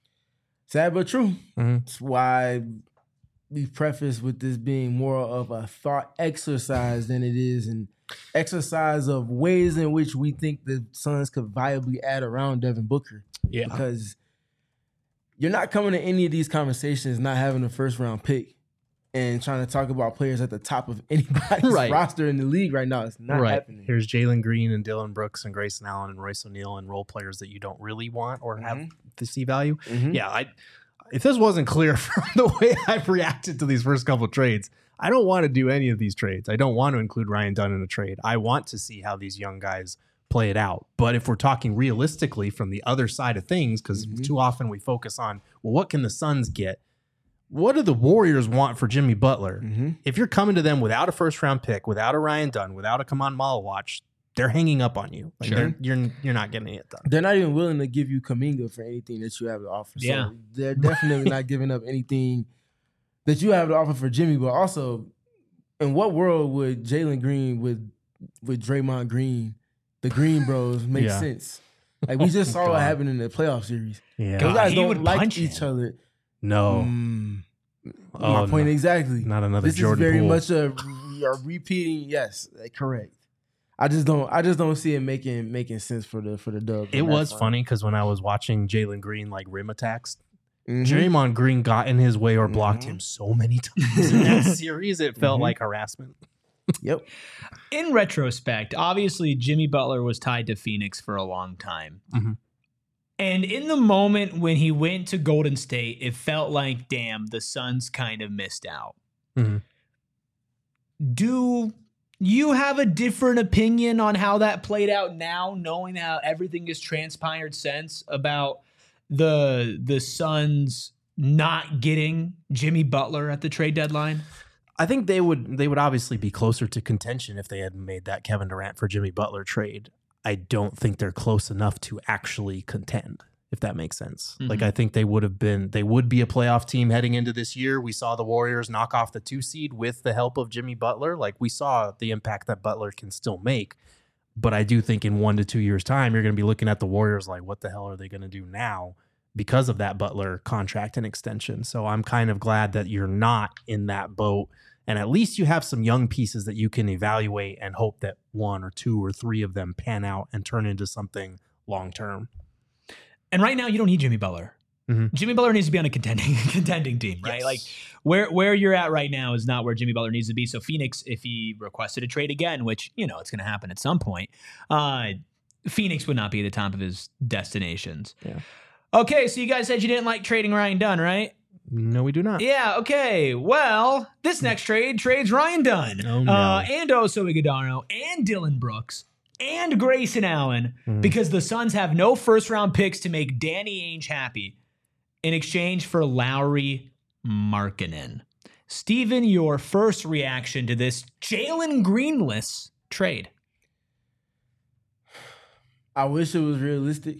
Sad but true. That's why we preface with this being more of a thought exercise than it is an exercise of ways in which we think the Suns could viably add around Devin Booker. Yeah. Because you're not coming to any of these conversations not having a first-round pick and trying to talk about players at the top of anybody's roster in the league right now. It's not happening. Here's Jalen Green and Dillon Brooks and Grayson Allen and Royce O'Neal and role players that you don't really want or have to see value. Yeah, if this wasn't clear from the way I've reacted to these first couple of trades, I don't want to do any of these trades. I don't want to include Ryan Dunn in a trade. I want to see how these young guys play it out. But if we're talking realistically from the other side of things, because too often we focus on, well, what can the Suns get? What do the Warriors want for Jimmy Butler? If you're coming to them without a first-round pick, without a Ryan Dunn, without a Kaman Malawach, they're hanging up on you. Like you're not getting it done. They're not even willing to give you Kuminga for anything that you have to offer. Yeah. So they're definitely not giving up anything that you have to offer for Jimmy. But also, in what world would Jalen Green with Draymond Green, the Green Bros, make sense? Like, we just saw what happened in the playoff series. Yeah. Those guys he don't would like punch each other. No. My point exactly. Not another this Jordan is very Poole. much a repeating. Yes, correct. I just don't see it making sense for the dub. It was funny because when I was watching Jalen Green like rim attacks, Draymond Green got in his way or blocked him so many times in that series. It felt like harassment. Yep. In retrospect, obviously Jimmy Butler was tied to Phoenix for a long time. And in the moment when he went to Golden State, it felt like, damn, the Suns kind of missed out. Do you have a different opinion on how that played out now, knowing how everything has transpired since about the Suns not getting Jimmy Butler at the trade deadline? I think they would obviously be closer to contention if they had made that Kevin Durant for Jimmy Butler trade. I don't think they're close enough to actually contend, if that makes sense. Like, I think they would be a playoff team heading into this year. We saw the Warriors knock off the 2 seed with the help of Jimmy Butler. Like, we saw the impact that Butler can still make. But I do think in 1 to 2 years' time, you're going to be looking at the Warriors like, what the hell are they going to do now because of that Butler contract and extension? So I'm kind of glad that you're not in that boat And at least you have some young pieces that you can evaluate and hope that 1 or 2 or 3 of them pan out and turn into something long term. And right now, you don't need Jimmy Butler. Mm-hmm. Jimmy Butler needs to be on a contending team, right? Yes. Like where you're at right now is not where Jimmy Butler needs to be. So Phoenix, if he requested a trade again, which, you know, it's going to happen at some point, Phoenix would not be at the top of his destinations. Yeah. Okay, so you guys said you didn't like trading Ryan Dunn, right? No, we do not. Yeah, okay. Well, this next trades Ryan Dunn. Oh, no. And Oso Iguodala and Dylan Brooks and Grayson Allen because the Suns have no first-round picks to make Danny Ainge happy in exchange for Lauri Markkanen. Steven, your first reaction to this Jalen Greenless trade? I wish it was realistic.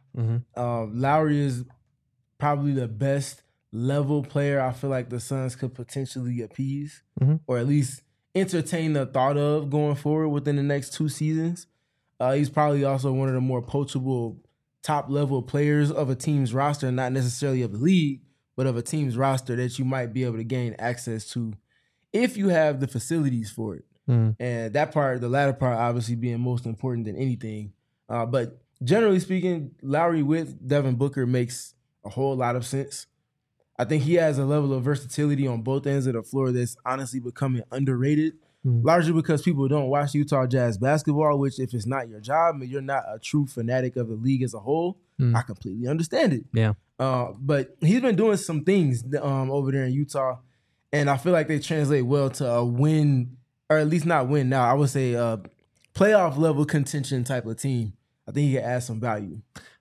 Lowry is probably the best level player I feel like the Suns could potentially appease or at least entertain the thought of going forward within the next 2 seasons. He's probably also one of the more poachable top-level players of a team's roster, not necessarily of the league, but of a team's roster that you might be able to gain access to if you have the facilities for it. And that part, the latter part, obviously being most important than anything. But generally speaking, Lowry with Devin Booker makes a whole lot of sense. I think he has a level of versatility on both ends of the floor that's honestly becoming underrated, largely because people don't watch Utah Jazz basketball, which if it's not your job and you're not a true fanatic of the league as a whole, I completely understand it. Yeah. But he's been doing some things over there in Utah, and I feel like they translate well to a win, or at least not win now. I would say playoff level contention type of team. I think he can add some value.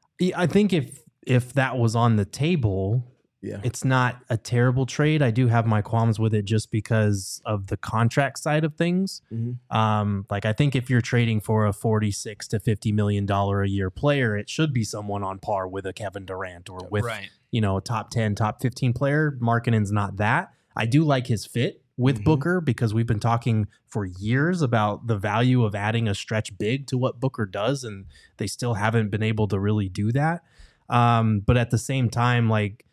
I think if that was on the table, it's not a terrible trade. I do have my qualms with it just because of the contract side of things. Like I think if you're trading for a $46 to $50 million a year player, it should be someone on par with a Kevin Durant or with a top 10, top 15 player. Markkanen's not that. I do like his fit with Booker because we've been talking for years about the value of adding a stretch big to what Booker does, and they still haven't been able to really do that. But at the same time, like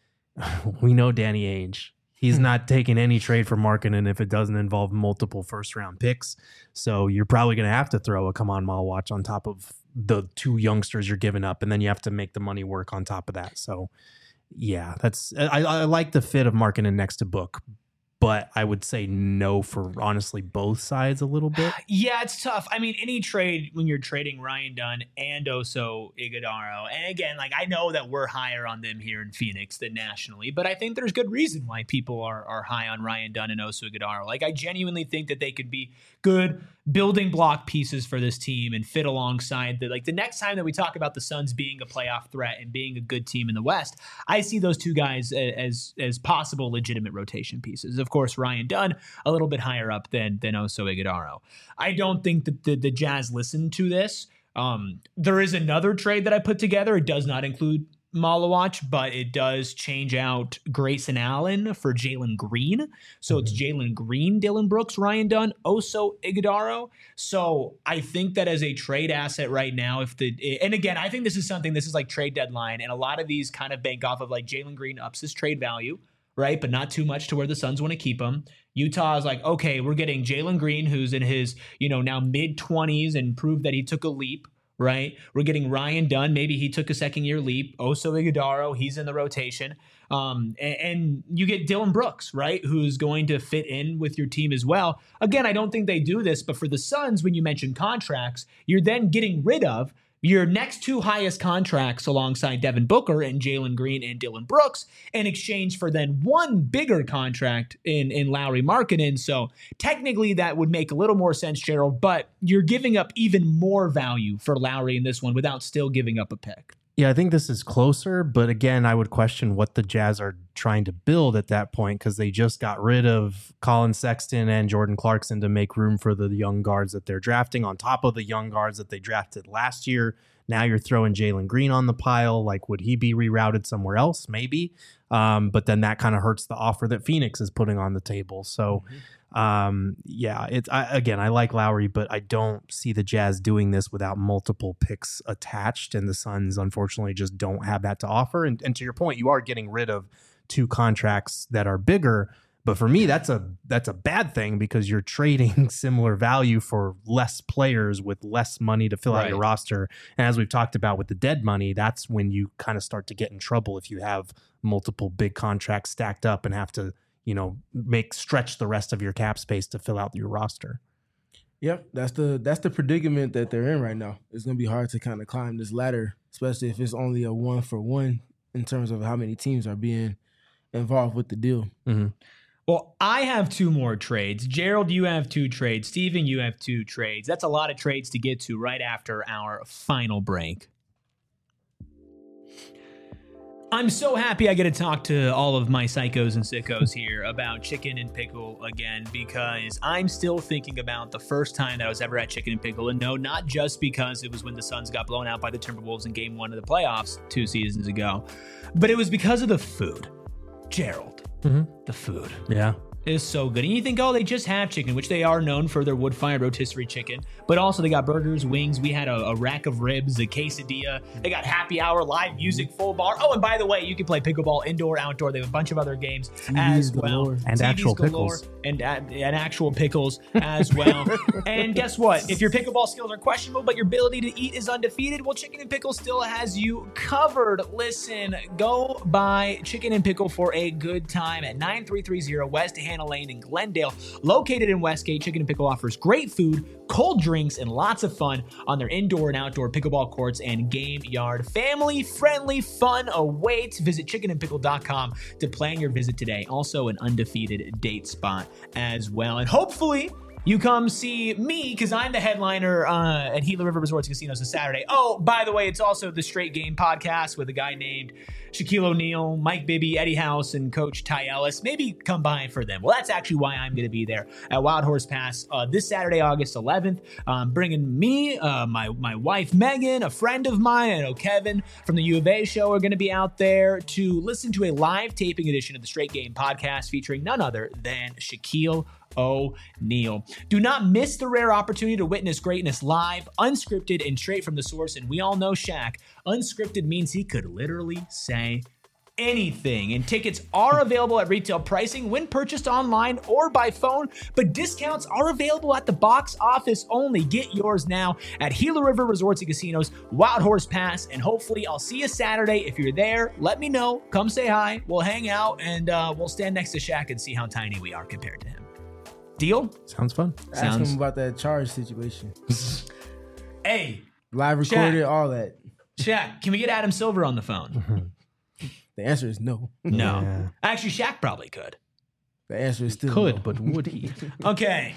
we know Danny Ainge, he's not taking any trade for Markkanen if it doesn't involve multiple first-round picks. So you're probably going to have to throw a Kaman Malwatch on top of the 2 youngsters you're giving up, and then you have to make the money work on top of that. So yeah, I like the fit of Markkanen next to Book, but I would say no for honestly both sides a little bit. Yeah, it's tough. I mean, any trade when you're trading Ryan Dunn and Oso Iguodala, and again, like I know that we're higher on them here in Phoenix than nationally, but I think there's good reason why people are high on Ryan Dunn and Oso Iguodala. Like I genuinely think that they could be good building block pieces for this team and fit alongside the next time that we talk about the Suns being a playoff threat and being a good team in the West, I see those 2 guys as possible legitimate rotation pieces. Of course, Ryan Dunn a little bit higher up than Oso Iguodala. I don't think that the Jazz listened to this. There is another trade that I put together. It does not include Malawach, but it does change out Grayson Allen for Jalen Green. So it's Jalen Green, Dylan Brooks, Ryan Dunn, Oso Iguodala. So I think that as a trade asset right now, and again, I think this is like trade deadline, and a lot of these kind of bank off of like Jalen Green ups his trade value, right? But not too much to where the Suns want to keep him. Utah is like, okay, we're getting Jalen Green, who's in his, now mid-20s and proved that he took a leap. Right, we're getting Ryan Dunn. Maybe he took a second-year leap. Oso Iguodala, he's in the rotation, and you get Dylan Brooks, right, who's going to fit in with your team as well. Again, I don't think they do this, but for the Suns, when you mention contracts, you're then getting rid of your next 2 highest contracts alongside Devin Booker and Jalen Green and Dylan Brooks in exchange for then 1 bigger contract in Lauri Markkanen. So technically that would make a little more sense, Gerald, but you're giving up even more value for Lauri in this one without still giving up a pick. Yeah, I think this is closer, but again, I would question what the Jazz are trying to build at that point because they just got rid of Colin Sexton and Jordan Clarkson to make room for the young guards that they're drafting on top of the young guards that they drafted last year. Now you're throwing Jalen Green on the pile. Like, would he be rerouted somewhere else? Maybe. But then that kind of hurts the offer that Phoenix is putting on the table. So, I like Lowry, but I don't see the Jazz doing this without multiple picks attached. And the Suns, unfortunately, just don't have that to offer. And to your point, you are getting rid of 2 contracts that are bigger, But for me, that's a bad thing because you're trading similar value for less players with less money to fill out your roster. And as we've talked about with the dead money, that's when you kind of start to get in trouble if you have multiple big contracts stacked up and have to, stretch the rest of your cap space to fill out your roster. Yep, that's the predicament that they're in right now. It's going to be hard to kind of climb this ladder, especially if it's only a 1-for-1 in terms of how many teams are being involved with the deal. Mm-hmm. Well, I have 2 more trades. Gerald, you have 2 trades. Steven, you have 2 trades. That's a lot of trades to get to right after our final break. I'm so happy I get to talk to all of my psychos and sickos here about Chicken and Pickle again, because I'm still thinking about the first time that I was ever at Chicken and Pickle. And no, not just because it was when the Suns got blown out by the Timberwolves in game 1 of the playoffs 2 seasons ago, but it was because of the food. Gerald, the food. Yeah. Is so good. And you think, oh, they just have chicken, which they are known for their wood-fired rotisserie chicken, but also they got burgers, wings. We had a rack of ribs, a quesadilla. They got happy hour, live music, full bar. Oh, and by the way, you can play pickleball indoor, outdoor. They have a bunch of other games as well. And actual pickles. And actual pickles as well. And guess what? If your pickleball skills are questionable, but your ability to eat is undefeated, well, Chicken and Pickle still has you covered. Listen, go buy Chicken and Pickle for a good time at 9330 West Hannah Lane in Glendale. Located in Westgate, Chicken and Pickle offers great food, cold drinks, and lots of fun on their indoor and outdoor pickleball courts and game yard. Family-friendly fun awaits. Visit chickenandpickle.com to plan your visit today. Also an undefeated date spot as well. And hopefully you come see me because I'm the headliner at Gila River Resorts and Casinos this Saturday. Oh, by the way, it's also the Straight Game podcast with a guy named Shaquille O'Neal, Mike Bibby, Eddie House, and Coach Ty Ellis. Maybe come by for them. Well, that's actually why I'm going to be there at Wild Horse Pass this Saturday, August 11th. Bringing me, my wife Megan, a friend of mine, I know Kevin from the U of A show are going to be out there to listen to a live taping edition of the Straight Game podcast featuring none other than Shaquille O'Neal. Do not miss the rare opportunity to witness greatness live, unscripted, and straight from the source. And we all know Shaq. Unscripted means he could literally say anything. And tickets are available at retail pricing when purchased online or by phone, but discounts are available at the box office only. Get yours now at Gila River Resorts and Casinos, Wild Horse Pass, and hopefully I'll see you Saturday. If you're there, let me know. Come say hi. We'll hang out and we'll stand next to Shaq and see how tiny we are compared to him. Deal? Sounds fun. Ask him about that charge situation. Hey. Live recorded, Shaq. All that. Shaq, can we get Adam Silver on the phone? The answer is no. No. Yeah. Actually, Shaq probably could. The answer is still Could, no. but would he? Okay.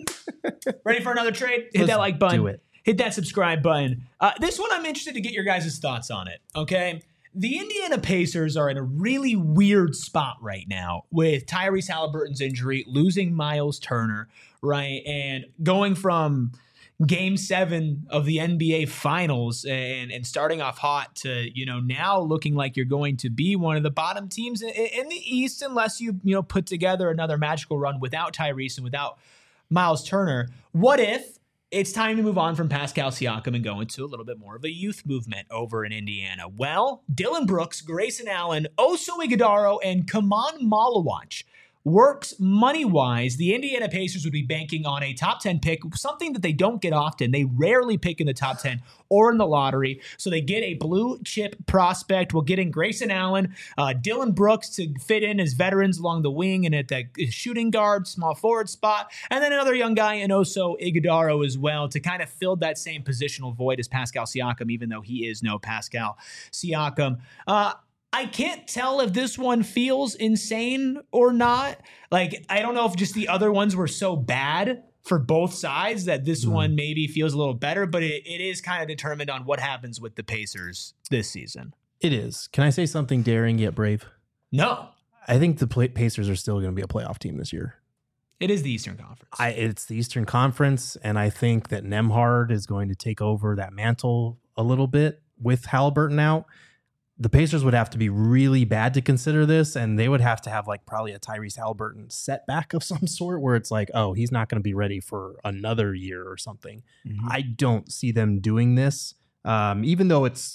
Ready for another trade? Hit Let's that like button. do it. Hit that subscribe button. This one, I'm interested to get your guys' thoughts on it, okay? The Indiana Pacers are in a really weird spot right now with Tyrese Halliburton's injury, losing Miles Turner, right? And going from Game 7 of the NBA Finals and starting off hot to, now looking like you're going to be one of the bottom teams in the East unless you put together another magical run without Tyrese and without Miles Turner. What if it's time to move on from Pascal Siakam and go into a little bit more of a youth movement over in Indiana? Well, Dylan Brooks, Grayson Allen, Oso Ighodaro, and Kaman Malawach works money-wise. The Indiana Pacers would be banking on a top 10 pick, something that they don't get often. They rarely pick in the top 10 or in the lottery. So they get a blue chip prospect. We'll get in Grayson Allen, Dylan Brooks to fit in as veterans along the wing and at the shooting guard, small forward spot. And then another young guy in Oso Ighodaro as well to kind of fill that same positional void as Pascal Siakam, even though he is no Pascal Siakam. I can't tell if this one feels insane or not. Like, I don't know if just the other ones were so bad for both sides that this one maybe feels a little better, but it is kind of determined on what happens with the Pacers this season. It is. Can I say something daring yet brave? No. I think the Pacers are still going to be a playoff team this year. It is the Eastern Conference. It's the Eastern Conference, and I think that Nembhard is going to take over that mantle a little bit with Halliburton out. The Pacers would have to be really bad to consider this, and they would have to have like probably a Tyrese Halliburton setback of some sort where it's like, oh, he's not going to be ready for another year or something. I don't see them doing this, even though it's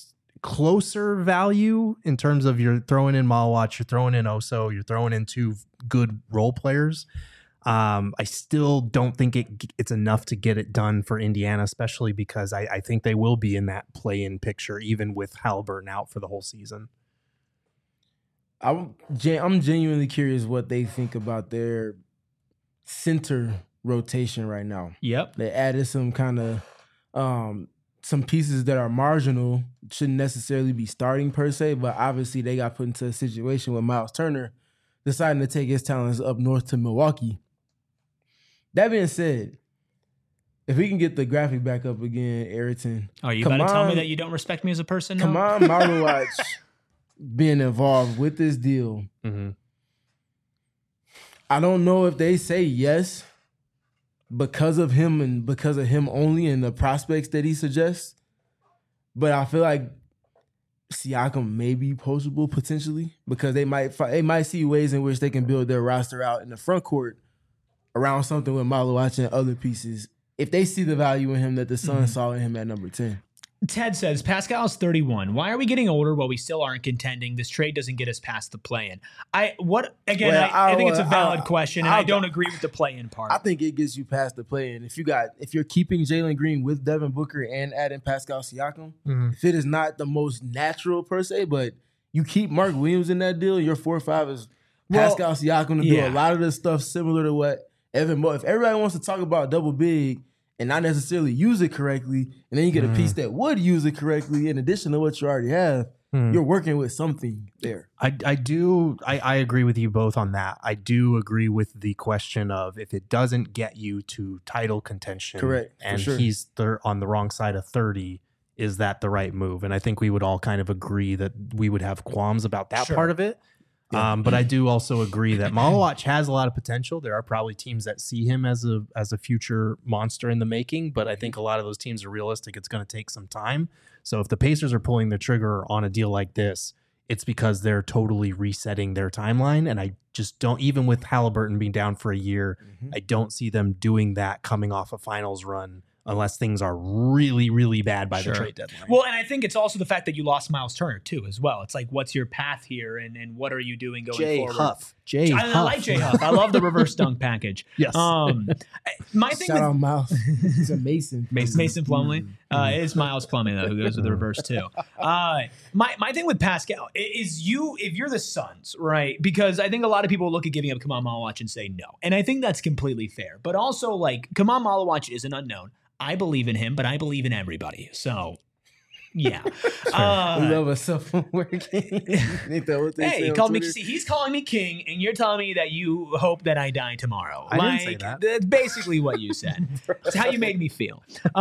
closer value in terms of you're throwing in Malawach, you're throwing in Oso, you're throwing in 2 good role players. I still don't think it's enough to get it done for Indiana, especially because I think they will be in that play-in picture, even with Haliburton out for the whole season. I'm genuinely curious what they think about their center rotation right now. Yep. They added some kind of some pieces that are marginal, shouldn't necessarily be starting per se, but obviously they got put into a situation with Miles Turner deciding to take his talents up north to Milwaukee. That being said, if we can get the graphic back up again, Ayrton. Oh, you about to tell me that you don't respect me as a person? Come on, Malawach being involved with this deal. Mm-hmm. I don't know if they say yes because of him and because of him only and the prospects that he suggests. But I feel like Siakam may be poachable potentially because they might see ways in which they can build their roster out in the front court around something with Malawach and other pieces if they see the value in him that the Suns saw in him at number 10. Ted says, Pascal's 31. Why are we getting older while we still aren't contending? This trade doesn't get us past the play-in. I think it's a valid question, and I don't agree with the play-in part. I think it gets you past the play-in. If you're keeping Jalen Green with Devin Booker and adding Pascal Siakam, if it is not the most natural per se, but you keep Mark Williams in that deal, your 4-5 is Pascal Siakam to do a lot of the stuff similar to what Evan Mobley. If everybody wants to talk about double big and not necessarily use it correctly, and then you get a piece that would use it correctly in addition to what you already have, you're working with something there. I agree with you both on that. I do agree with the question of if it doesn't get you to title contention, correct, and he's on the wrong side of 30, is that the right move? And I think we would all kind of agree that we would have qualms about that part of it. Yeah. But I do also agree that Malawach has a lot of potential. There are probably teams that see him as a future monster in the making, but I think a lot of those teams are realistic. It's going to take some time. So if the Pacers are pulling the trigger on a deal like this, it's because they're totally resetting their timeline. And I just don't, even with Haliburton being down for a year, I don't see them doing that coming off a finals run unless things are really, really bad by the trade deadline. Well, and I think it's also the fact that you lost Miles Turner, too, as well. It's like, what's your path here, and what are you doing going forward? I like Jay Huff. I love the reverse dunk package. Yes. My thing Shout out Miles. He's a Mason. Mason Plumlee. It is Miles Plumlee, though, who goes with the reverse, too. My thing with Pascal is if you're the Suns, right? Because I think a lot of people look at giving up Kamal Malawach and say no. And I think that's completely fair. But also, like, Kamal Malawach is an unknown. I believe in him, but I believe in everybody. So, yeah. We love a self-aware king. Hey, he called me. See, he's calling me king, and you're telling me that you hope that I die tomorrow. I didn't say that. That's basically what you said. It's how you made me feel.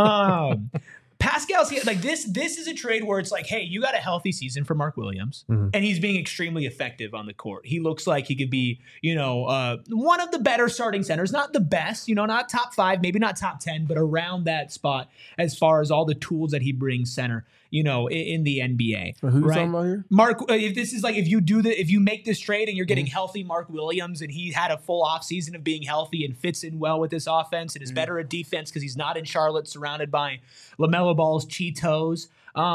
Pascal's like this is a trade where it's like, hey, you got a healthy season for Mark Williams, and he's being extremely effective on the court. He looks like he could be, one of the better starting centers, not the best, not top 5, maybe not top 10, but around that spot as far as all the tools that he brings center, in the NBA. Who you talking about here? Mark, if this is like, if you make this trade and you're getting healthy Mark Williams, and he had a full off season of being healthy and fits in well with this offense and is better at defense because he's not in Charlotte surrounded by LaMelo Ball's Cheetos.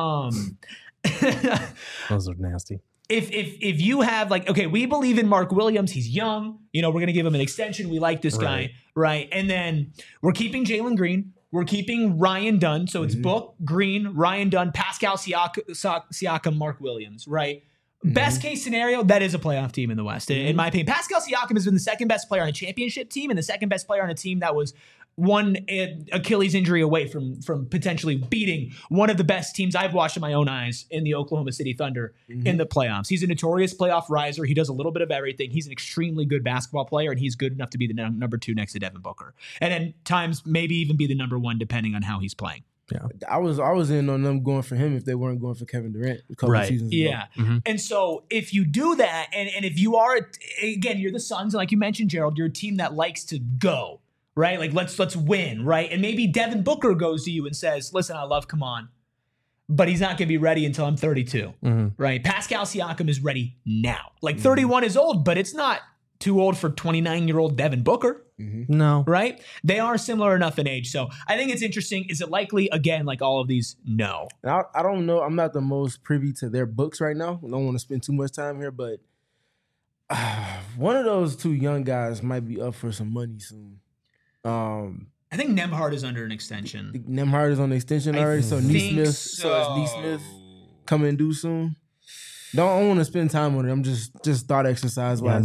Those are nasty. If you have we believe in Mark Williams, he's young, we're going to give him an extension. We like this guy, right? And then we're keeping Jalen Green. We're keeping Ryan Dunn. So it's Book, Green, Ryan Dunn, Pascal Siakam, Mark Williams, right? Best case scenario, that is a playoff team in the West. In my opinion, Pascal Siakam has been the second best player on a championship team and the second best player on a team that was one Achilles injury away from potentially beating one of the best teams I've watched in my own eyes in the Oklahoma City Thunder in the playoffs. He's a notorious playoff riser. He does a little bit of everything. He's an extremely good basketball player, and he's good enough to be the number 2 next to Devin Booker. And at times, maybe even be the number 1, depending on how he's playing. Yeah, I was in on them going for him if they weren't going for Kevin Durant a couple of seasons ago. Yeah. And so if you do that, and if you are, again, you're the Suns, and like you mentioned, Gerald, you're a team that likes to go, right? Like, let's win, right? And maybe Devin Booker goes to you and says, listen, I love Kaman, but he's not going to be ready until I'm 32, right? Pascal Siakam is ready now. Like, 31 is old, but it's not too old for 29-year-old Devin Booker. No. Right? They are similar enough in age. So I think it's interesting. Is it likely, again, like all of these? No. And I don't know. I'm not the most privy to their books right now. I don't want to spend too much time here, but one of those two young guys might be up for some money soon. I think Nembhard is under an extension. Nembhard is on the extension already, so Neesmith. So is Neesmith coming due soon? Don't want to spend time on it. I'm just thought exercise wise.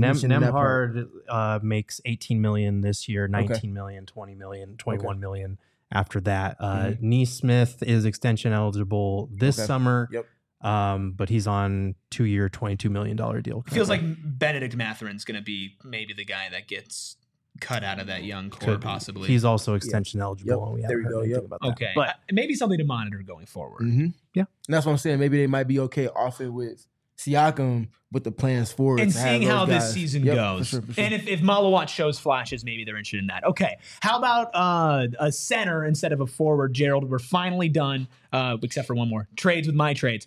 Nembhard makes 18 million this year, 19 million, 20 million, 21 million after that. Neesmith is extension eligible this summer. Yep. But he's on 2-year, $22 million deal. Feels like Benedict Matherin's going to be maybe the guy that gets cut out of that young core, possibly. He's also extension eligible. And we there we go. Yep. About that. Okay. But maybe something to monitor going forward. Yeah. And that's what I'm saying. Maybe they might be okay off it with Siakam with the plans forward. And seeing how this season goes. For sure. And if Malawat shows flashes, maybe they're interested in that. Okay. How about a center instead of a forward, Gerald? We're finally done, except for one more. Trades with my trades.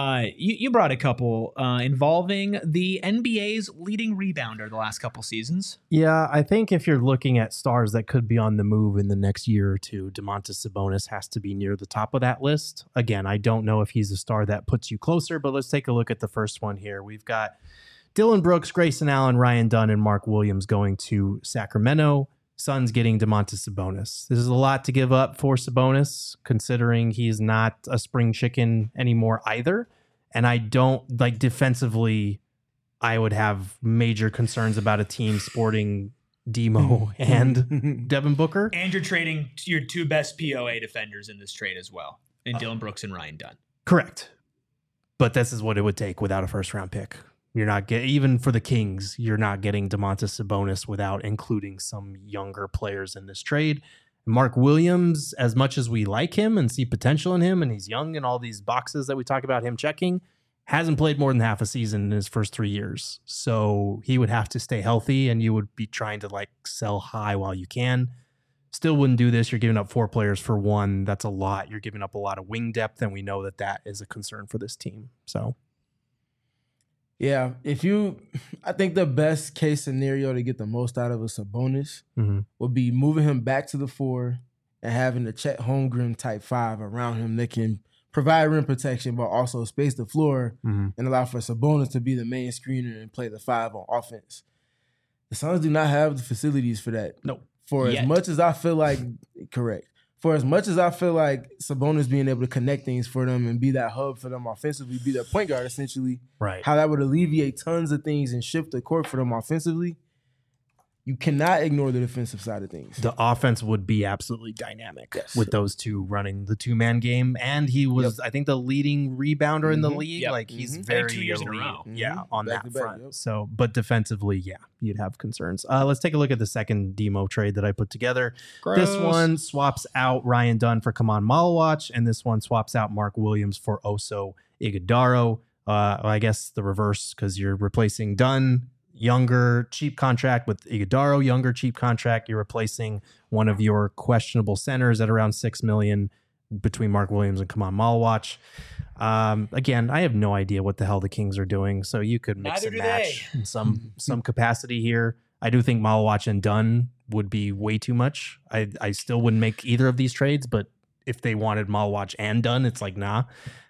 You brought a couple involving the NBA's leading rebounder the last couple seasons. Yeah, I think if you're looking at stars that could be on the move in the next year or two, Domantas Sabonis has to be near the top of that list. Again, I don't know if he's a star that puts you closer, but let's take a look at the first one here. We've got Dillon Brooks, Grayson Allen, Ryan Dunn, and Mark Williams going to Sacramento. Suns getting Domantas Sabonis. This is a lot to give up for Sabonis, considering he's not a spring chicken anymore either. And I don't like defensively. I would have major concerns about a team sporting Demo and Devin Booker. And you're trading your two best POA defenders in this trade as well, in Dillon Brooks and Ryan Dunn. Correct. But this is what it would take without a first round pick. You're not getting, even for the Kings, you're not getting Domantas Sabonis without including some younger players in this trade. Mark Williams, as much as we like him and see potential in him, and he's young and all these boxes that we talk about him checking, hasn't played more than half a season in his first 3 years. So he would have to stay healthy, and you would be trying to like sell high while you can. Still wouldn't do this. You're giving up 4 players for 1. That's a lot. You're giving up a lot of wing depth, and we know that that is a concern for this team. So, yeah, I think the best case scenario to get the most out of a Sabonis would be moving him back to the 4 and having a Chet Holmgren type 5 around him that can provide rim protection, but also space the floor and allow for Sabonis to be the main screener and play the 5 on offense. The Suns do not have the facilities for that. No. As much as I feel like Sabonis being able to connect things for them and be that hub for them offensively, be their point guard essentially, right? How that would alleviate tons of things and shift the court for them offensively. You cannot ignore the defensive side of things. The offense would be absolutely dynamic with those two running the 2-man game. And he was, I think, the leading rebounder in the league. Like, he's very 2 years in a row. Yeah, on back that to front. back, So, but defensively, yeah, you'd have concerns. Let's take a look at the second Demo trade that I put together. Gross. This one swaps out Ryan Dunn for Kaman Malawach, and this one swaps out Mark Williams for Oso Ighodaro. I guess the reverse, because you're replacing Dunn, younger, cheap contract, with Ighodaro, younger, cheap contract. You're replacing one of your questionable centers at around $6 million between Mark Williams and Kaman Malawach. Again, I have no idea what the hell the Kings are doing, so you could mix and match in some capacity here. I do think Malawach and Dunn would be way too much. I still wouldn't make either of these trades, but if they wanted Malawach and Dunn, it's like, nah.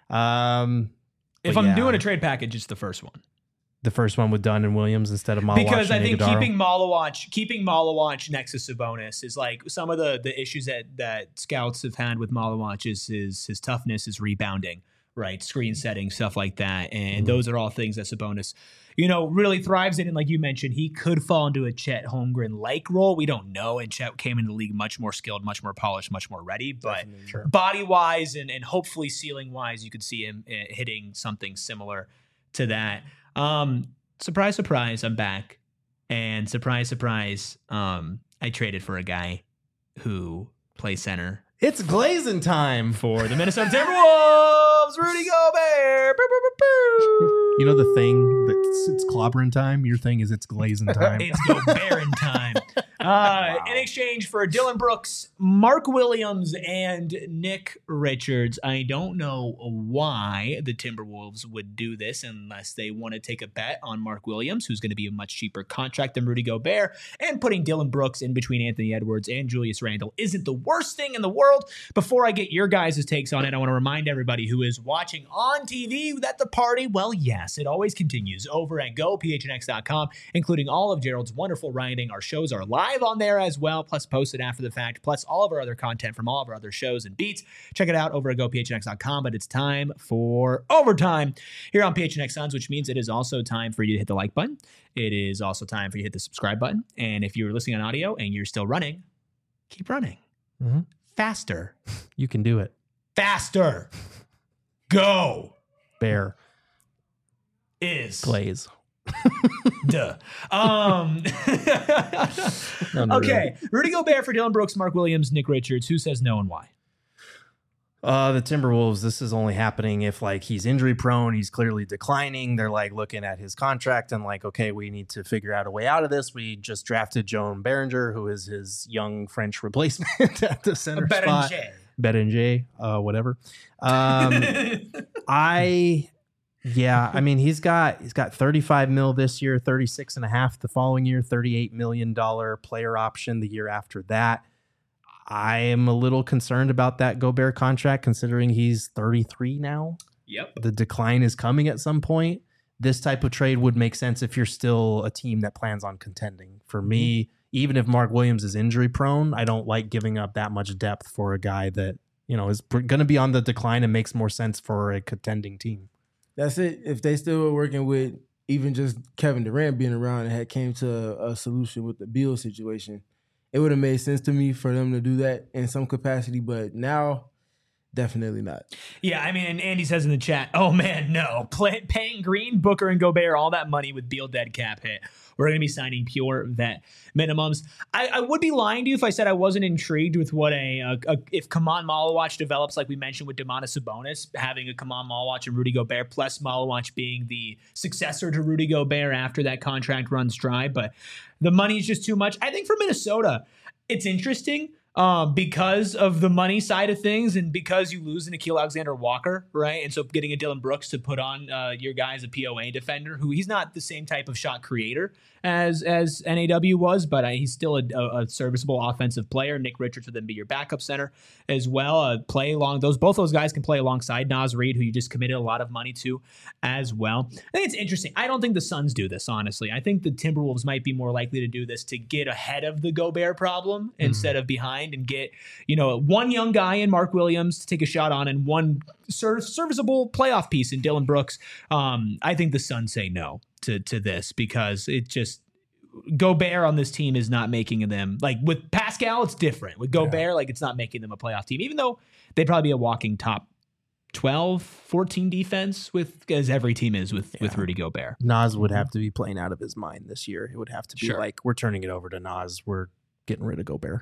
If I'm doing a trade package, it's the first one. The first one with Dunn and Williams instead of Malawach. Because I think Ighodaro. keeping Malawach next to Sabonis is like some of the issues that scouts have had with Malawach is his toughness, his rebounding, right? Screen setting, stuff like that. And those are all things that Sabonis, really thrives in. And like you mentioned, he could fall into a Chet Holmgren-like role. We don't know. And Chet came into the league much more skilled, much more polished, much more ready. But body-wise and hopefully ceiling-wise, you could see him hitting something similar to that. Surprise, surprise, I'm back. And surprise, surprise, I traded for a guy who plays center. It's glazing time For the Minnesota Timberwolves, Rudy Gobert. You know the thing that it's clobbering time. Your thing is it's glazing time. It's Gobert time. In exchange for Dillon Brooks, Mark Williams, and Nick Richards. I don't know why the Timberwolves would do this unless they want to take a bet on Mark Williams, who's going to be a much cheaper contract than Rudy Gobert, and putting Dillon Brooks in between Anthony Edwards and Julius Randle isn't the worst thing in the world. Before I get your guys' takes on it, I want to remind everybody who is watching on TV that the party, well, yes, it always continues over at GoPHNX.com, including all of Gerald's wonderful writing. Our shows are live on there as well, plus posted after the fact, plus all of our other content from all of our other shows and beats. Check it out over at GoPHNX.com, but it's time for overtime here on PHNX Suns, which means it is also time for you to hit the like button. It is also time for you to hit the subscribe button. And if you're listening on audio and you're still running, keep running. Mm-hmm. Faster. You can do it. Faster. Go. Bear. Is. Glaze. Duh. Okay. Rudy Gobert for Dillon Brooks, Mark Williams, Nick Richards. Who says no and why? The Timberwolves, this is only happening if like he's injury prone, he's clearly declining. They're like looking at his contract and like, okay, we need to figure out a way out of this. We just drafted Joan Berenger, who is his young French replacement at the center spot. Berenger, whatever. I mean, he's got 35 mil this year, 36 and a half the following year, $38 million player option the year after that. I am a little concerned about that Gobert contract considering he's 33 now. Yep. The decline is coming at some point. This type of trade would make sense if you're still a team that plans on contending. For me, even if Mark Williams is injury prone, I don't like giving up that much depth for a guy that, you know, is going to be on the decline and makes more sense for a contending team. That's it. If they still were working with even just Kevin Durant being around and had came to a solution with the Beal situation, it would have made sense to me for them to do that in some capacity. But now, definitely not. Yeah, I mean, and Andy says in the chat, oh man, no. Paying Green, Booker, and Gobert all that money with Beal dead cap hit. We're going to be signing pure vet minimums. I would be lying to you if I said I wasn't intrigued with what if Kaman Malawach develops, like we mentioned with Domantas Sabonis, having a Kaman Malawach and Rudy Gobert, plus Malawach being the successor to Rudy Gobert after that contract runs dry. But the money is just too much. I think for Minnesota, it's interesting. Because of the money side of things and because you lose Nickeil Alexander-Walker, right? And so getting a Dillon Brooks to put on your guy as a POA defender, who he's not the same type of shot creator as NAW was, but he's still a serviceable offensive player. Nick Richards would then be your backup center as well. Both those guys can play alongside Naz Reid, who you just committed a lot of money to as well. I think it's interesting. I don't think the Suns do this, honestly. I think the Timberwolves might be more likely to do this to get ahead of the Gobert problem instead of behind and get, one young guy in Mark Williams to take a shot on and one serviceable playoff piece in Dillon Brooks. I think the Suns say no to this because it just Gobert on this team is not making them, like with Pascal, it's different. With Gobert, like it's not making them a playoff team, even though they'd probably be a walking top 12, 14 defense as every team is with Rudy Gobert. Naz would have to be playing out of his mind this year. It would have to be like, we're turning it over to Naz. We're getting rid of Gobert.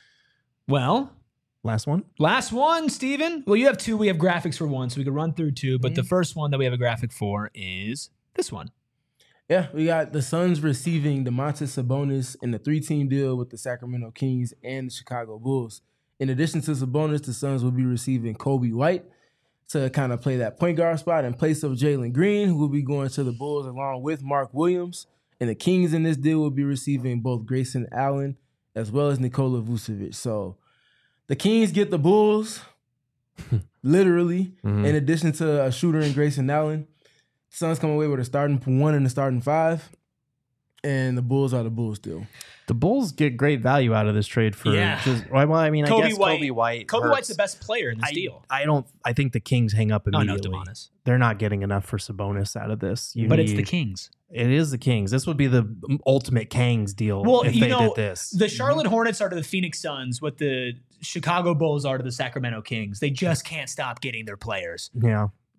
Well, last one, Steven. Well, you have two. We have graphics for one, so we could run through two. But the first one that we have a graphic for is this one. Yeah, we got the Suns receiving Domantas Sabonis in the 3-team deal with the Sacramento Kings and the Chicago Bulls. In addition to Sabonis, the Suns will be receiving Kobe White to kind of play that point guard spot in place of Jalen Green, who will be going to the Bulls along with Mark Williams. And the Kings in this deal will be receiving both Grayson Allen as well as Nikola Vucevic. So the Kings get the Bulls, literally, in addition to a shooter in Grayson Allen. Suns come away with a starting 1 and a starting 5, and the Bulls are the Bulls still. The Bulls get great value out of this trade for Kobe White. Kobe White's the best player in this deal. I think the Kings hang up immediately. Oh, no, Domantas. They're not getting enough for Sabonis out of this. It's the Kings. It is the Kings. This would be the ultimate Kangs deal if they did this. The Charlotte Hornets are to the Phoenix Suns what the Chicago Bulls are to the Sacramento Kings. They just can't stop getting their players. Yeah.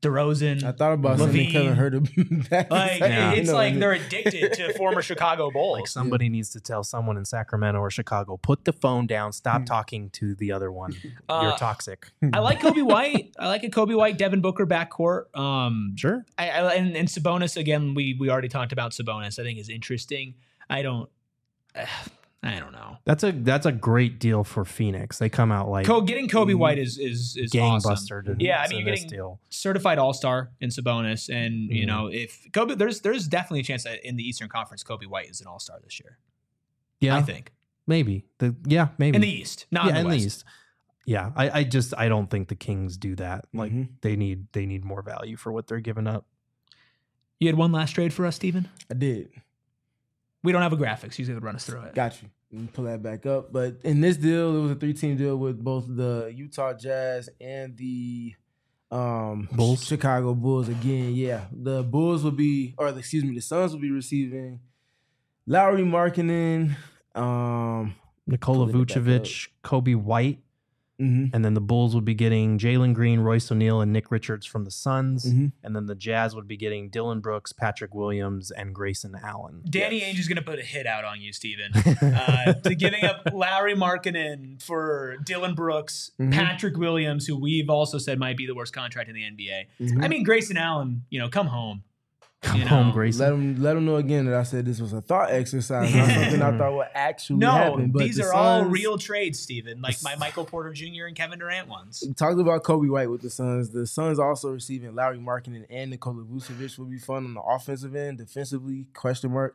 DeRozan. I thought about sending Kevin Huerter back. Like it's like they're addicted to former Chicago Bulls. Like somebody needs to tell someone in Sacramento or Chicago, put the phone down, stop talking to the other one. You're toxic. I like Kobe White. I like a Kobe White, Devin Booker backcourt. Sure. And Sabonis again. We already talked about Sabonis. I think is interesting. I don't know. That's a great deal for Phoenix. They come out like getting Kobe White is gangbuster. Awesome. Yeah, I mean you're getting certified All-Star in Sabonis, and you know if Kobe, there's definitely a chance that in the Eastern Conference Kobe White is an All-Star this year. Yeah, I think maybe maybe in the East, not in the West. East. Yeah, I don't think the Kings do that. Like they need more value for what they're giving up. You had one last trade for us, Steven? I did. We don't have a graphics. He's going to run us through it. Got you. Let me pull that back up. But in this deal, it was a 3-team deal with both the Utah Jazz and the Bulls. Chicago Bulls. Again, yeah. The Suns will be receiving Lauri Markkanen, Nikola Vucevic, Kobe White. And then the Bulls would be getting Jalen Green, Royce O'Neal, and Nick Richards from the Suns. And then the Jazz would be getting Dillon Brooks, Patrick Williams, and Grayson Allen. Danny Ainge is going to put a hit out on you, Steven. To giving up Lauri Markkanen for Dillon Brooks, Patrick Williams, who we've also said might be the worst contract in the NBA. I mean, Grayson Allen, come home. Come home, Grayson. Let him know again that I said this was a thought exercise, not something I thought would actually happen. No, these are all real trades, Steven, like my Michael Porter Jr. and Kevin Durant ones. We talked about Kobe White with the Suns. The Suns also receiving Lauri Markkanen and Nikola Vucevic will be fun on the offensive end. Defensively, question mark.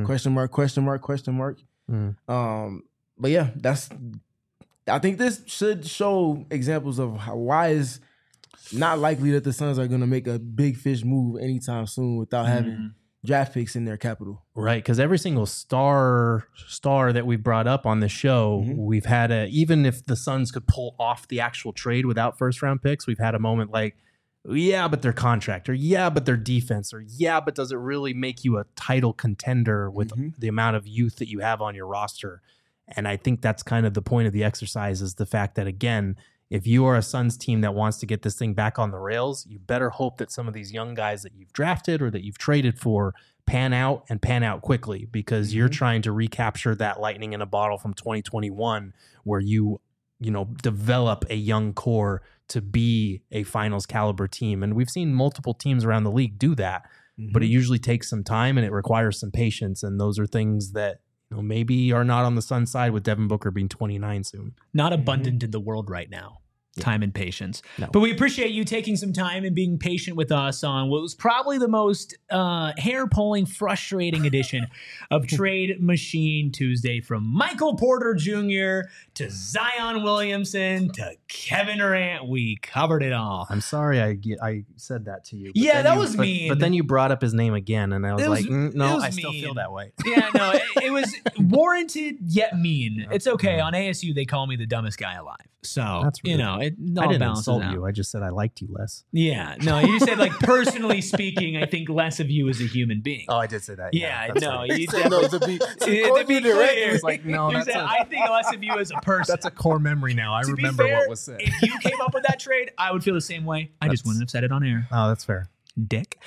But yeah, I think this should show examples of why is not likely that the Suns are going to make a big fish move anytime soon without having draft picks in their capital. Right, because every single star that we've brought up on the show, we've had even if the Suns could pull off the actual trade without first-round picks, we've had a moment like, yeah, but their contract, or yeah, but their defense, or yeah, but does it really make you a title contender with the amount of youth that you have on your roster? And I think that's kind of the point of the exercise, is the fact that, again, if you are a Suns team that wants to get this thing back on the rails, you better hope that some of these young guys that you've drafted or that you've traded for pan out quickly, because you're trying to recapture that lightning in a bottle from 2021 where you develop a young core to be a finals caliber team. And we've seen multiple teams around the league do that, but it usually takes some time and it requires some patience. And those are things that maybe are not on the Suns side, with Devin Booker being 29 soon. Not abundant in the world right now. Time and patience. No. But we appreciate you taking some time and being patient with us on what was probably the most hair-pulling, frustrating edition of Trade Machine Tuesday, from Michael Porter Jr. to Zion Williamson to Kevin Durant. We covered it all. I'm sorry I said that to you. Yeah, that was mean. But then you brought up his name again, and I was like, no, I still feel that way. Yeah, no, it was warranted yet mean. It's okay. On ASU, they call me the dumbest guy alive. So, that's rude. It all I didn't balances insult out. you. I just said I liked you less. Yeah, no, you said, like, personally speaking, I think less of you as a human being. Oh, I did say that. Yeah, no, right. you to be clear. It's like, no, you said, I think less of you as a person. That's a core memory now. I remember fair, what was said. If you came up with that trade, I would feel the same way. I just wouldn't have said it on air. Oh, that's fair. Dick.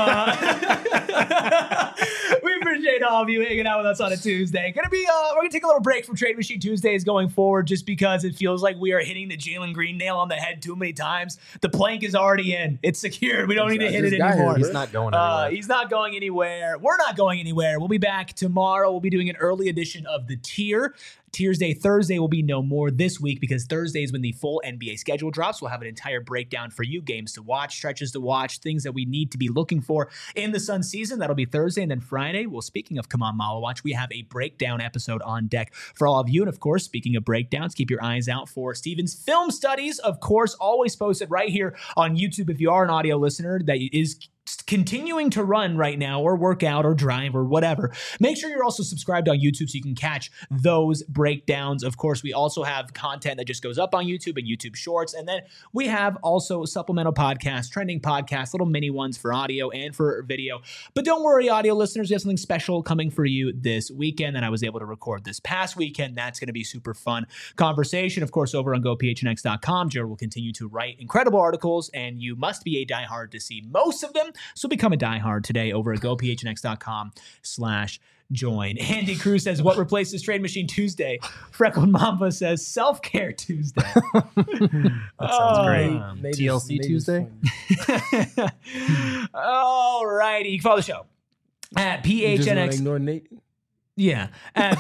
We appreciate all of you hanging out with us on a Tuesday. We're gonna take a little break from Trade Machine Tuesdays going forward, just because it feels like we are hitting the Jalen Green nail on the head too many times. The plank is already in. It's secured. We don't need to hit it anymore. He's not going anywhere. He's not going anywhere. We're not going anywhere. We'll be back tomorrow. We'll be doing an early edition of the Tier. Tiers Day Thursday will be no more this week, because Thursday is when the full NBA schedule drops. We'll have an entire breakdown for you, games to watch, stretches to watch, things that we need to be looking for in the Sun season. That'll be Thursday. And then Friday, well, speaking of Come On Mala Watch, we have a breakdown episode on deck for all of you. And of course, speaking of breakdowns, keep your eyes out for Steven's film studies, of course, always posted right here on YouTube. If you are an audio listener, that is continuing to run right now or work out or drive or whatever, make sure you're also subscribed on YouTube so you can catch those breakdowns. Of course, we also have content that just goes up on YouTube and YouTube Shorts. And then we have also supplemental podcasts, trending podcasts, little mini ones for audio and for video. But don't worry, audio listeners, we have something special coming for you this weekend that I was able to record this past weekend. That's going to be super fun conversation. Of course, over on GoPHNX.com, Jared will continue to write incredible articles, and you must be a diehard to see most of them. So become a diehard today over at GoPHNX.com/join. Andy Cruz says, what replaces Trade Machine Tuesday? Freckled Mamba says, Self-Care Tuesday. That sounds great. TLC Tuesday? All righty. You can follow the show at PHNX. Ignore Nate. Yeah, at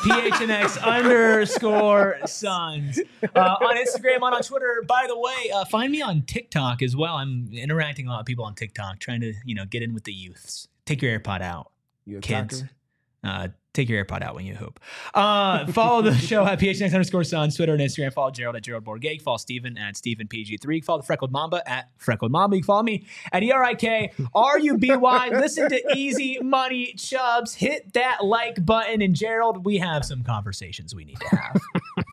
PHNX_Suns on Instagram, on Twitter. By the way, find me on TikTok as well. I'm interacting with a lot of people on TikTok, trying to get in with the youths. Take your AirPod out, kids. Take your AirPod out when you hoop. Follow the show at PHNX_Suns, Twitter and Instagram. Follow Gerald at Gerald Borgate. Follow Steven at StevenPG3. Follow the Freckled Mamba at Freckled Mamba. You can follow me at ERIKRUBY. Listen to Easy Money Chubbs. Hit that like button. And Gerald, we have some conversations we need to have.